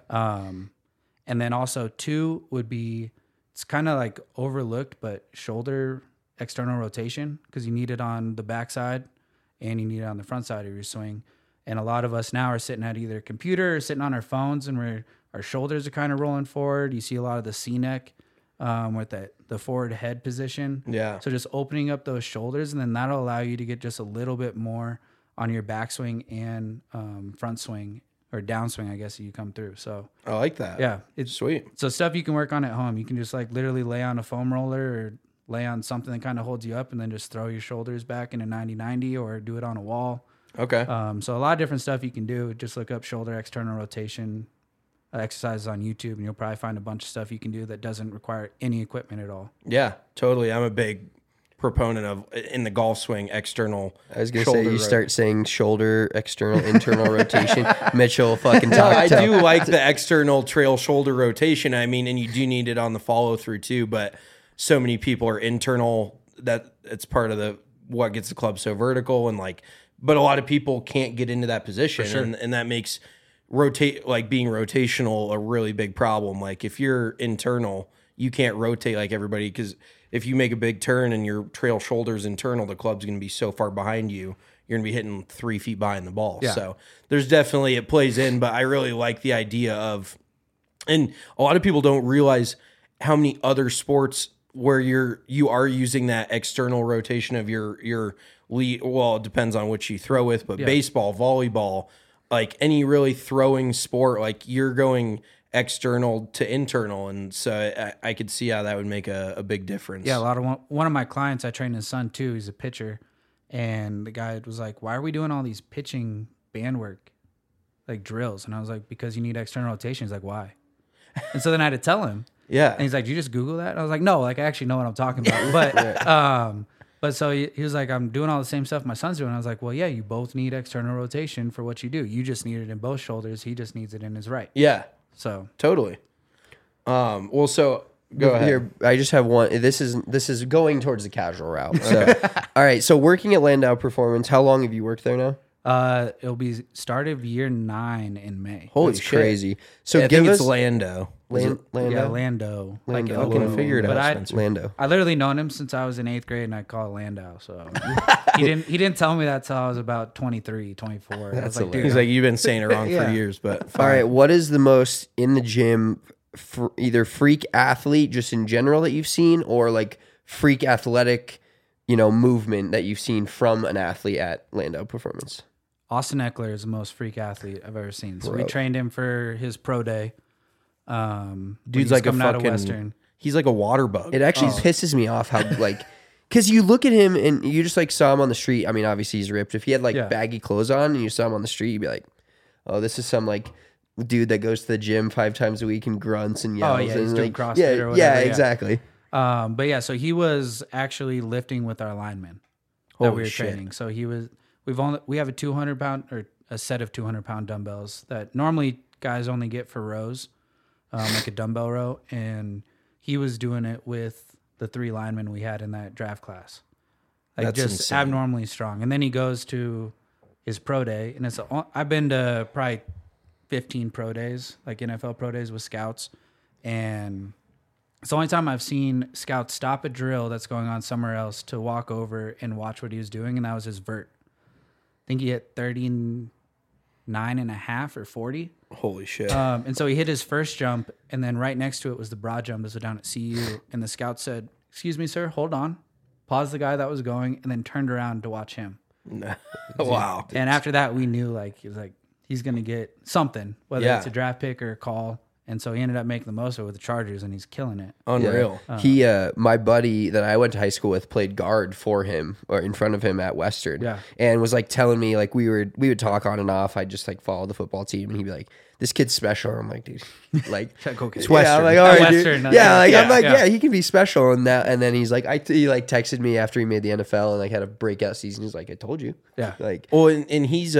Speaker 3: And then also two would be, it's kind of like overlooked, but shoulder external rotation, because you need it on the backside and you need it on the front side of your swing. And a lot of us now are sitting at either a computer or sitting on our phones, and our shoulders are kind of rolling forward. You see a lot of the C-neck with the forward head position.
Speaker 2: Yeah.
Speaker 3: So just opening up those shoulders, and then that'll allow you to get just a little bit more on your backswing and front swing or downswing, I guess, you come through. So
Speaker 2: I like that.
Speaker 3: yeah, it's
Speaker 2: Sweet.
Speaker 3: So stuff you can work on at home. You can just like literally lay on a foam roller or lay on something that kind of holds you up, and then just throw your shoulders back in a 90-90 or do it on a wall.
Speaker 2: Okay.
Speaker 3: So a lot of different stuff you can do. Just look up shoulder external rotation exercises on YouTube, and you'll probably find a bunch of stuff you can do that doesn't require any equipment at all.
Speaker 2: Yeah, totally. I'm a big proponent of, in the golf swing, external.
Speaker 1: I was going to say, you
Speaker 2: shoulder
Speaker 1: start saying shoulder, external, internal rotation. Mitchell fucking
Speaker 2: No,
Speaker 1: talk.
Speaker 2: I do like the external trail shoulder rotation. I mean, and you do need it on the follow through too, but so many people are internal that it's part of what gets the club so vertical, and like, but a lot of people can't get into that position, and that makes being rotational a really big problem. Like if you're internal, you can't rotate like everybody, because if you make a big turn and your trail shoulder's internal, the club's going to be so far behind you, you're going to be hitting 3 feet behind the ball.
Speaker 3: Yeah.
Speaker 2: So there's definitely, it plays in, but I really like the idea of, and a lot of people don't realize how many other sports where you are using that external rotation of your lead. Well, it depends on which you throw with, but baseball, volleyball, like any really throwing sport, like you're going external to internal, and so I could see how that would make a big difference.
Speaker 3: Yeah, one of my clients, I trained his son too. He's a pitcher, and the guy was like, "Why are we doing all these pitching band work, like drills?" And I was like, "Because you need external rotation." He's like, "Why?" And so then I had to tell him.
Speaker 2: Yeah.
Speaker 3: And he's like, "Did you just Google that?" And I was like, "No, like I actually know what I'm talking about." But But so he was like, I'm doing all the same stuff my son's doing. I was like, well, yeah, you both need external rotation for what you do. You just need it in both shoulders. He just needs it in his right.
Speaker 2: Yeah,
Speaker 3: So
Speaker 2: totally. Well, so go ahead.
Speaker 1: Here, I just have one. This is going towards the casual route. So, all right. So working at Landau Performance, how long have you worked there now?
Speaker 3: it'll be start of year 9 in May.
Speaker 2: Holy
Speaker 1: That's
Speaker 2: shit.
Speaker 1: crazy. So
Speaker 2: Yeah, I
Speaker 1: give
Speaker 2: think
Speaker 1: us
Speaker 2: it's Lando.
Speaker 1: Lando.
Speaker 3: Yeah, Lando. Like
Speaker 1: Lando.
Speaker 2: Fucking figure it
Speaker 3: But
Speaker 2: out,
Speaker 3: I-
Speaker 2: Spencer.
Speaker 1: Lando.
Speaker 3: I literally known him since I was in 8th grade, and I call it Landau. So he didn't tell me that till I was about 23, 24. I was
Speaker 1: That's
Speaker 3: like, dude,
Speaker 2: He's like, you've been saying it wrong
Speaker 3: Yeah.
Speaker 2: for years, but
Speaker 1: All
Speaker 2: fine.
Speaker 1: right. What is the most in the gym, either freak athlete just in general that you've seen, or like freak athletic, movement that you've seen from an athlete at Landau Performance?
Speaker 3: Austin Eckler is the most freak athlete I've ever seen. So we
Speaker 1: Bro.
Speaker 3: trained him for his pro day. When
Speaker 2: Dude's
Speaker 3: he's
Speaker 2: like a
Speaker 3: coming out of
Speaker 2: fucking.
Speaker 3: Western.
Speaker 2: He's like a water bug.
Speaker 1: It actually pisses me off how because you look at him and you just like saw him on the street. I mean, obviously he's ripped. If he had like
Speaker 3: Yeah.
Speaker 1: baggy clothes on and you saw him on the street, you'd be like, oh, this is some like dude that goes to the gym 5 times a week and grunts and yells.
Speaker 3: yeah,
Speaker 1: and
Speaker 3: he's doing
Speaker 1: like,
Speaker 3: CrossFit
Speaker 1: yeah,
Speaker 3: or whatever,
Speaker 1: yeah,
Speaker 3: yeah.
Speaker 1: exactly.
Speaker 3: But yeah, so he was actually lifting with our linemen that
Speaker 2: Holy
Speaker 3: we were
Speaker 2: shit.
Speaker 3: training. So we have a 200-pound or a set of 200-pound dumbbells that normally guys only get for rows, like a dumbbell row, and he was doing it with the 3 linemen we had in that draft class. Like
Speaker 2: That's
Speaker 3: just
Speaker 2: insane.
Speaker 3: abnormally strong. And then he goes to his pro day, and I've been to probably 15 pro days, like NFL pro days with scouts, and it's the only time I've seen scouts stop a drill that's going on somewhere else to walk over and watch what he was doing, and that was his vert. I think he hit 39.5 or 40.
Speaker 2: Holy shit.
Speaker 3: And so he hit his first jump, and then right next to it was the broad jump. This was down at CU, and the scout said, "Excuse me, sir, hold on." Paused the guy that was going, and then turned around to watch him.
Speaker 2: Wow.
Speaker 3: And after that, we knew he's going to get something, whether
Speaker 2: Yeah.
Speaker 3: it's a draft pick or a call. And so he ended up making the most of it with the Chargers, and he's killing it.
Speaker 2: Unreal.
Speaker 1: He, my buddy that I went to high school with, played guard for him or in front of him at Western.
Speaker 3: Yeah.
Speaker 1: And was like telling me like we would talk on and off. I'd just like follow the football team, and he'd be like, "This kid's special." I'm like, dude, like
Speaker 3: Okay.
Speaker 1: it's
Speaker 3: Yeah,
Speaker 1: Western. I'm like,
Speaker 3: At
Speaker 1: all right,
Speaker 3: Western,
Speaker 1: dude. Yeah, like I'm like,
Speaker 3: yeah.
Speaker 1: yeah, he can be special and that. And then he's like, he like texted me after he made the NFL and like had a breakout season. He's like, I told you.
Speaker 3: Yeah.
Speaker 1: Like,
Speaker 2: Well, and he's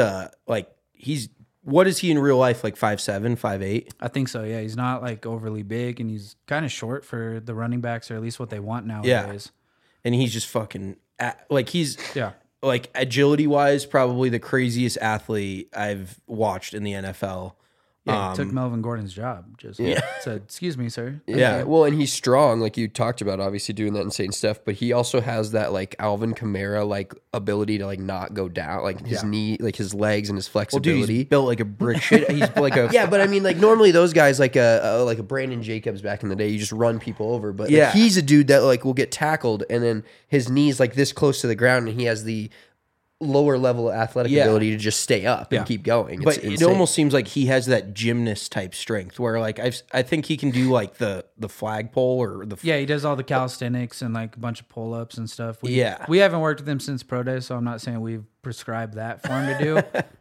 Speaker 2: what is he in real life? Like 5'7", 5'8"?
Speaker 3: I think so, yeah. He's not like overly big, and he's kind of short for the running backs, or at least what they want nowadays.
Speaker 2: And he's just fucking he's
Speaker 3: Yeah.
Speaker 2: like agility wise, probably the craziest athlete I've watched in the NFL.
Speaker 3: Yeah, he took Melvin Gordon's job. Just said, "Excuse me, sir."
Speaker 2: Yeah.
Speaker 1: Well, and he's strong, like you talked about, obviously doing that insane stuff. But he also has that like Alvin Kamara like ability to like not go down, like his knee, like his legs and his
Speaker 2: Well, dude,
Speaker 1: flexibility.
Speaker 2: he's built like a brick shit. He's like a
Speaker 1: Yeah, but I mean, like normally those guys, like a Brandon Jacobs back in the day, you just run people over. But like,
Speaker 2: Yeah.
Speaker 1: he's a dude that like will get tackled, and then his knees like this close to the ground, and he has the lower level athletic
Speaker 2: Yeah.
Speaker 1: ability to just stay up and keep going.
Speaker 2: But
Speaker 1: It's
Speaker 2: it
Speaker 1: insane.
Speaker 2: almost seems like he has that gymnast type strength where like I think he can do like the flagpole or the
Speaker 3: Yeah, he does all the calisthenics and like a bunch of pull-ups and stuff. We haven't worked with him since pro day, so I'm not saying we've prescribed that for him to do.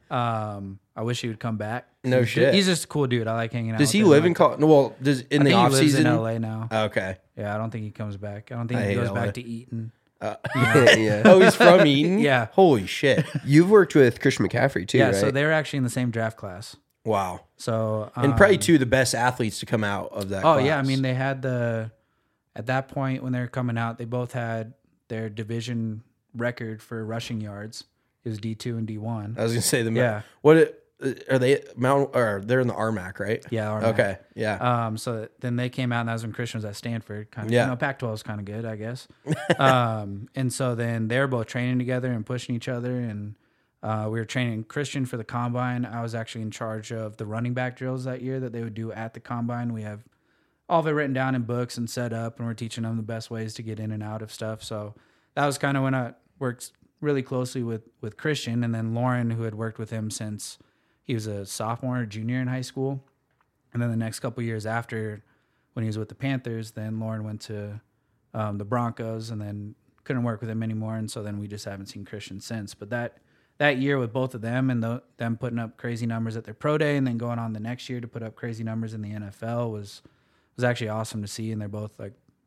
Speaker 3: I wish he would come back.
Speaker 2: No shit.
Speaker 3: He's just a cool dude. I like hanging out.
Speaker 2: Does
Speaker 3: with
Speaker 2: he
Speaker 3: him.
Speaker 2: live in well does in
Speaker 3: I
Speaker 2: the
Speaker 3: think
Speaker 2: off
Speaker 3: he lives
Speaker 2: season?
Speaker 3: in LA now.
Speaker 2: Okay.
Speaker 3: Yeah, I don't think he comes back. I don't think
Speaker 2: I
Speaker 3: he
Speaker 2: hate
Speaker 3: goes
Speaker 2: LA.
Speaker 3: back to Eaton.
Speaker 1: yeah.
Speaker 2: Oh, he's from Eaton?
Speaker 3: Yeah.
Speaker 2: Holy shit.
Speaker 1: You've worked with Christian McCaffrey too,
Speaker 3: Yeah,
Speaker 1: right?
Speaker 3: so they were actually in the same draft class.
Speaker 2: Wow.
Speaker 3: So
Speaker 2: And probably two of the best athletes to come out of that
Speaker 3: Oh
Speaker 2: class.
Speaker 3: yeah, I mean they had at that point when they were coming out, they both had their division record for rushing yards. It was D2 and D1.
Speaker 2: I was gonna say
Speaker 3: Yeah.
Speaker 2: Are they they're in the RMAC, right?
Speaker 3: Yeah. RMAC.
Speaker 2: Okay. Yeah.
Speaker 3: So then they came out, and that was when Christian was at Stanford. Kind of,
Speaker 2: Yeah.
Speaker 3: Pac-12 is kind of good, I guess. And so then they were both training together and pushing each other, and we were training Christian for the combine. I was actually in charge of the running back drills that year that they would do at the combine. We have all of it written down in books and set up, and we're teaching them the best ways to get in and out of stuff. So that was kind of when I worked really closely with Christian, and then Lauren, who had worked with him since he was a sophomore or junior in high school. And then the next couple of years after, when he was with the Panthers, then Lauren went to the Broncos, and then couldn't work with him anymore. And so then we just haven't seen Christian since. But that year with both of them and them putting up crazy numbers at their pro day, and then going on the next year to put up crazy numbers in the NFL was actually awesome to see. And they're both like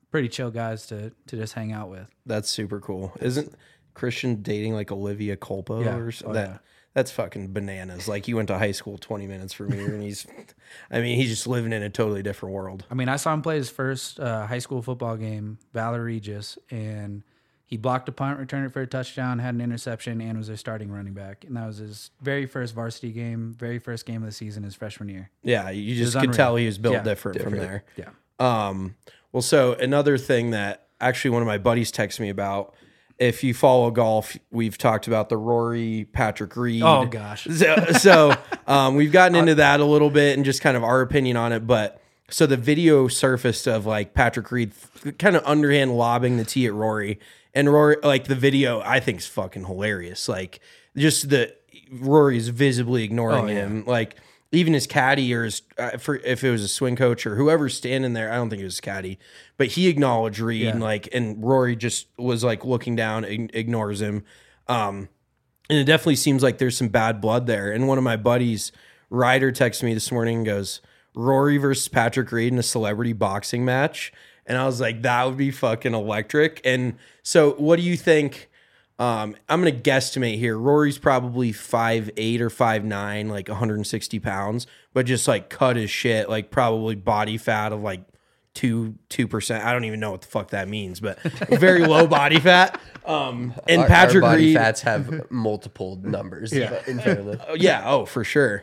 Speaker 3: pretty chill guys to just hang out with.
Speaker 2: That's super cool. Isn't Christian dating like Olivia Culpo
Speaker 3: Yeah.
Speaker 2: or something? That's fucking bananas. Like he went to high school 20 minutes from here, and he's just living in a totally different world.
Speaker 3: I mean, I saw him play his first high school football game, Valor Regis, and he blocked a punt, returned it for a touchdown, had an interception, and was their starting running back. And that was his very first varsity game, very first game of the season, his freshman year.
Speaker 2: Yeah, you just
Speaker 3: was
Speaker 2: could
Speaker 3: unreal.
Speaker 2: tell he was built
Speaker 3: Yeah,
Speaker 2: different from there.
Speaker 3: Yeah.
Speaker 2: Well, so another thing that actually one of my buddies texted me about, if you follow golf, we've talked about the Rory Patrick Reed.
Speaker 3: Oh, gosh.
Speaker 2: So we've gotten into that a little bit and just kind of our opinion on it. But so the video surfaced of like Patrick Reed kind of underhand lobbing the tee at Rory. And Rory, like the video, I think is fucking hilarious. Like just Rory's visibly ignoring him. Like even his caddy or if it was a swing coach or whoever's standing there, I don't think it was his caddy, but he acknowledged Reed and Rory just was like looking down, ignores him. And it definitely seems like there's some bad blood there. And one of my buddies, Ryder, texted me this morning and goes, Rory versus Patrick Reed in a celebrity boxing match. And I was like, that would be fucking electric. And so what do you think? I'm going to guesstimate here. Rory's probably 5'8" or 5'9", like 160 pounds, but just like cut as shit, like probably body fat of like 2%. I don't even know what the fuck that means, but very low body fat. And Patrick
Speaker 1: our body
Speaker 2: Reed,
Speaker 1: fats have multiple numbers in front of them.
Speaker 2: yeah, oh, for sure.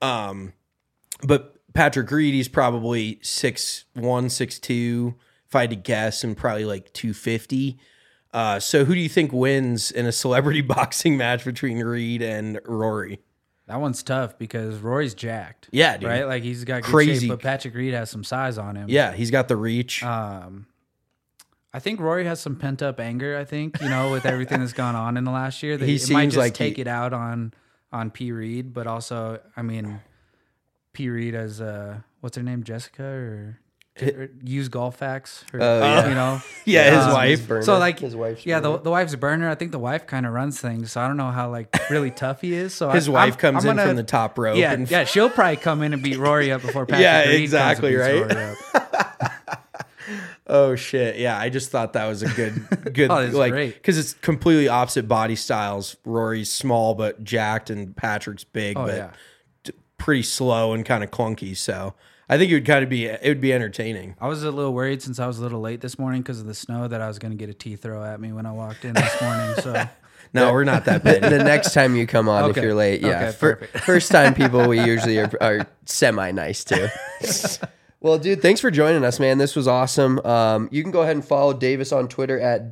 Speaker 2: But Patrick Reed, he's probably 6'1", 6'2", if I had to guess, and probably like 250. So who do you think wins in a celebrity boxing match between Reed and Rory?
Speaker 3: That one's tough because Rory's jacked.
Speaker 2: Yeah, dude.
Speaker 3: Right? Like he's got good
Speaker 2: Crazy.
Speaker 3: shape, but Patrick Reed has some size on him.
Speaker 2: Yeah, he's got the reach.
Speaker 3: I think Rory has some pent up anger, I think, with everything that's gone on in the last year. That
Speaker 2: He
Speaker 3: it might
Speaker 2: seems
Speaker 3: just
Speaker 2: like
Speaker 3: take it out on P. Reed, but also, I mean, P. Reed as what's her name, Jessica or use golf facts,
Speaker 2: yeah, his wife.
Speaker 1: Burner.
Speaker 3: So like,
Speaker 1: his wife's
Speaker 3: yeah,
Speaker 1: burner.
Speaker 3: the wife's burner. I think the wife kind of runs things, so I don't know how like really tough he is. So
Speaker 2: His wife comes
Speaker 3: I'm
Speaker 2: in from the top rope.
Speaker 3: Yeah,
Speaker 2: and
Speaker 3: yeah, she'll probably come in and beat Rory up before Patrick
Speaker 2: Yeah,
Speaker 3: Reed
Speaker 2: exactly,
Speaker 3: comes and beats
Speaker 2: right?
Speaker 3: Rory up.
Speaker 2: Oh shit! Yeah, I just thought that was a good
Speaker 3: Oh, that's
Speaker 2: like
Speaker 3: great.
Speaker 2: because it's completely opposite body styles. Rory's small but jacked, and Patrick's big
Speaker 3: Oh,
Speaker 2: but
Speaker 3: yeah.
Speaker 2: pretty slow and kind of clunky. So I think it would be entertaining.
Speaker 3: I was a little worried since I was a little late this morning because of the snow that I was going to get a tea throw at me when I walked in this morning. So
Speaker 2: No, we're not that big.
Speaker 1: The next time you come on,
Speaker 3: Okay.
Speaker 1: if you're late, yeah.
Speaker 3: Okay, perfect.
Speaker 1: First time people we usually are semi nice to. Well, dude, thanks for joining us, man. This was awesome. You can go ahead and follow Davis on Twitter at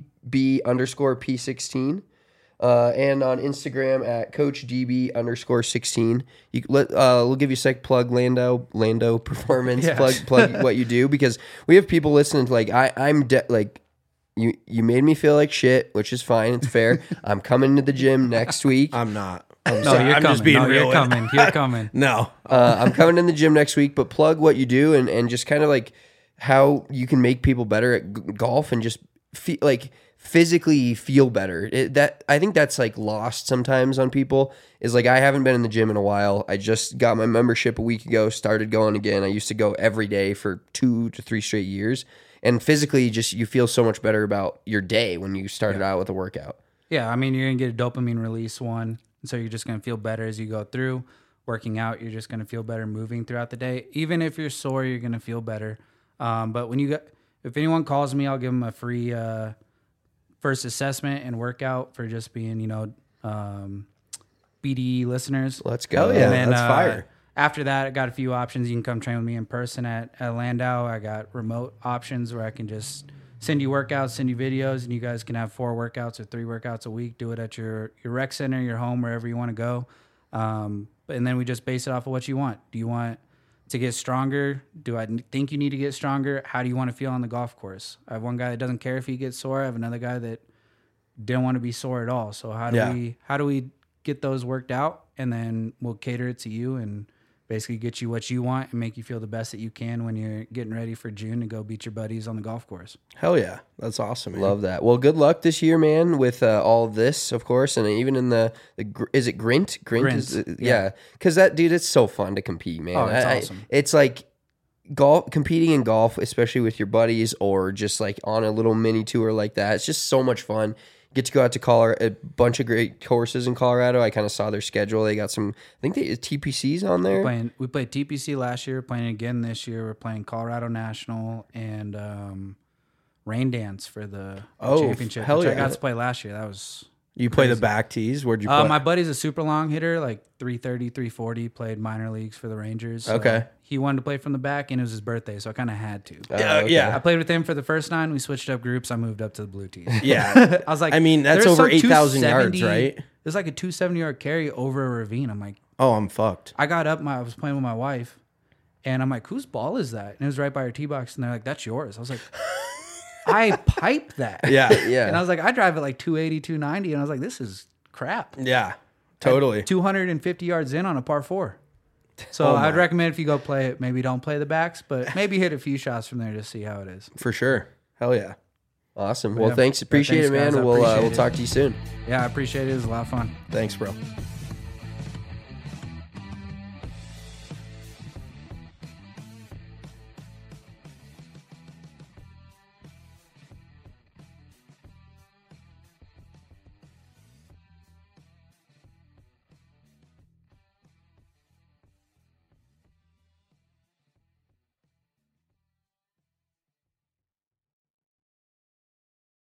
Speaker 1: DB_P16. And on Instagram at CoachDB_16. We'll give you a sec. Plug Lando Performance.
Speaker 3: Yeah.
Speaker 1: Plug what you do, because we have people listening to I'm you made me feel like shit, which is fine. It's fair. I'm coming to the gym next week.
Speaker 2: I'm not.
Speaker 3: no,
Speaker 2: sorry,
Speaker 3: you're
Speaker 2: I'm
Speaker 3: coming.
Speaker 2: just being
Speaker 3: no,
Speaker 2: real.
Speaker 3: You're coming. You're coming.
Speaker 2: No.
Speaker 1: I'm coming in the gym next week, but plug what you do and just kind of like how you can make people better at golf and just physically feel better. I think that's like lost sometimes on people is like, I haven't been in the gym in a while. I just got my membership a week ago, started going again. I used to go every day for 2 to 3 straight years. And physically just, you feel so much better about your day when you started out with a workout.
Speaker 3: Yeah, I mean, you're going to get a dopamine release one. And so you're just going to feel better as you go through. Working out, you're just going to feel better moving throughout the day. Even if you're sore, you're going to feel better. But if anyone calls me, I'll give them a free first assessment and workout for just being, BDE listeners.
Speaker 1: Let's go.
Speaker 2: Hell yeah.
Speaker 3: And then,
Speaker 2: that's fire.
Speaker 3: After that, I got a few options. You can come train with me in person at Landau. I got remote options where I can just send you workouts, send you videos, and you guys can have 4 workouts or 3 workouts a week. Do it at your rec center, your home, wherever you want to go. And then we just base it off of what you want. Do you want to get stronger? Do I think you need to get stronger? How do you want to feel on the golf course? I have one guy that doesn't care if he gets sore. I have another guy that didn't want to be sore at all. So how do we get those worked out? And then we'll cater it to you and basically get you what you want and make you feel the best that you can when you're getting ready for June to go beat your buddies on the golf course.
Speaker 2: Hell yeah. That's awesome, man.
Speaker 1: Love that. Well, good luck this year, man, with all of this, of course, and even in is it Grint?
Speaker 3: Grint,
Speaker 1: is, yeah. Because that, dude, it's so fun to compete, man.
Speaker 3: Oh, it's awesome.
Speaker 1: It's like golf, competing in golf, especially with your buddies or just like on a little mini tour like that, it's just so much fun. Get to go out to Colorado, a bunch of great courses in Colorado. I kind of saw their schedule. They got some, I think they TPCs on there.
Speaker 3: We played TPC last year, playing again this year. We're playing Colorado National and Rain Dance for the championship.
Speaker 2: hell
Speaker 3: which I
Speaker 2: yeah.
Speaker 3: got to play last year. That was
Speaker 2: You play the back tees? Where'd you play?
Speaker 3: my buddy's a super long hitter, like 330, 340, played minor leagues for the Rangers. So
Speaker 2: Okay.
Speaker 3: He wanted to play from the back, and it was his birthday, so I kind of had to.
Speaker 2: Yeah.
Speaker 3: I played with him for the first 9. We switched up groups. I moved up to the blue tees.
Speaker 2: Yeah.
Speaker 3: I was like,
Speaker 2: I mean, that's
Speaker 3: there's
Speaker 2: over
Speaker 3: some
Speaker 2: 8,000 yards,
Speaker 3: 270
Speaker 2: right?
Speaker 3: There's like a 270-yard carry over a ravine. I'm like,
Speaker 2: Oh, I'm fucked.
Speaker 3: I got up, I was playing with my wife, and I'm like, whose ball is that? And it was right by our tee box, and they're like, that's yours. I was like, I piped that.
Speaker 2: Yeah.
Speaker 1: Yeah.
Speaker 3: And I was like, I drive it like 280, 290, and I was like, this is crap.
Speaker 2: Yeah. Totally.
Speaker 3: 250 yards in on a par 4. So I'd recommend if you go play it, maybe don't play the backs, but maybe hit a few shots from there to see how it is.
Speaker 2: For sure. Hell yeah.
Speaker 1: Awesome. Well,
Speaker 3: Yeah.
Speaker 1: thanks. Appreciate
Speaker 3: Thanks,
Speaker 1: it, man.
Speaker 3: guys. I
Speaker 1: We'll
Speaker 3: appreciate
Speaker 1: we'll
Speaker 3: it.
Speaker 1: talk to you soon.
Speaker 3: Yeah, I appreciate it. It was a lot of fun.
Speaker 2: Thanks, bro.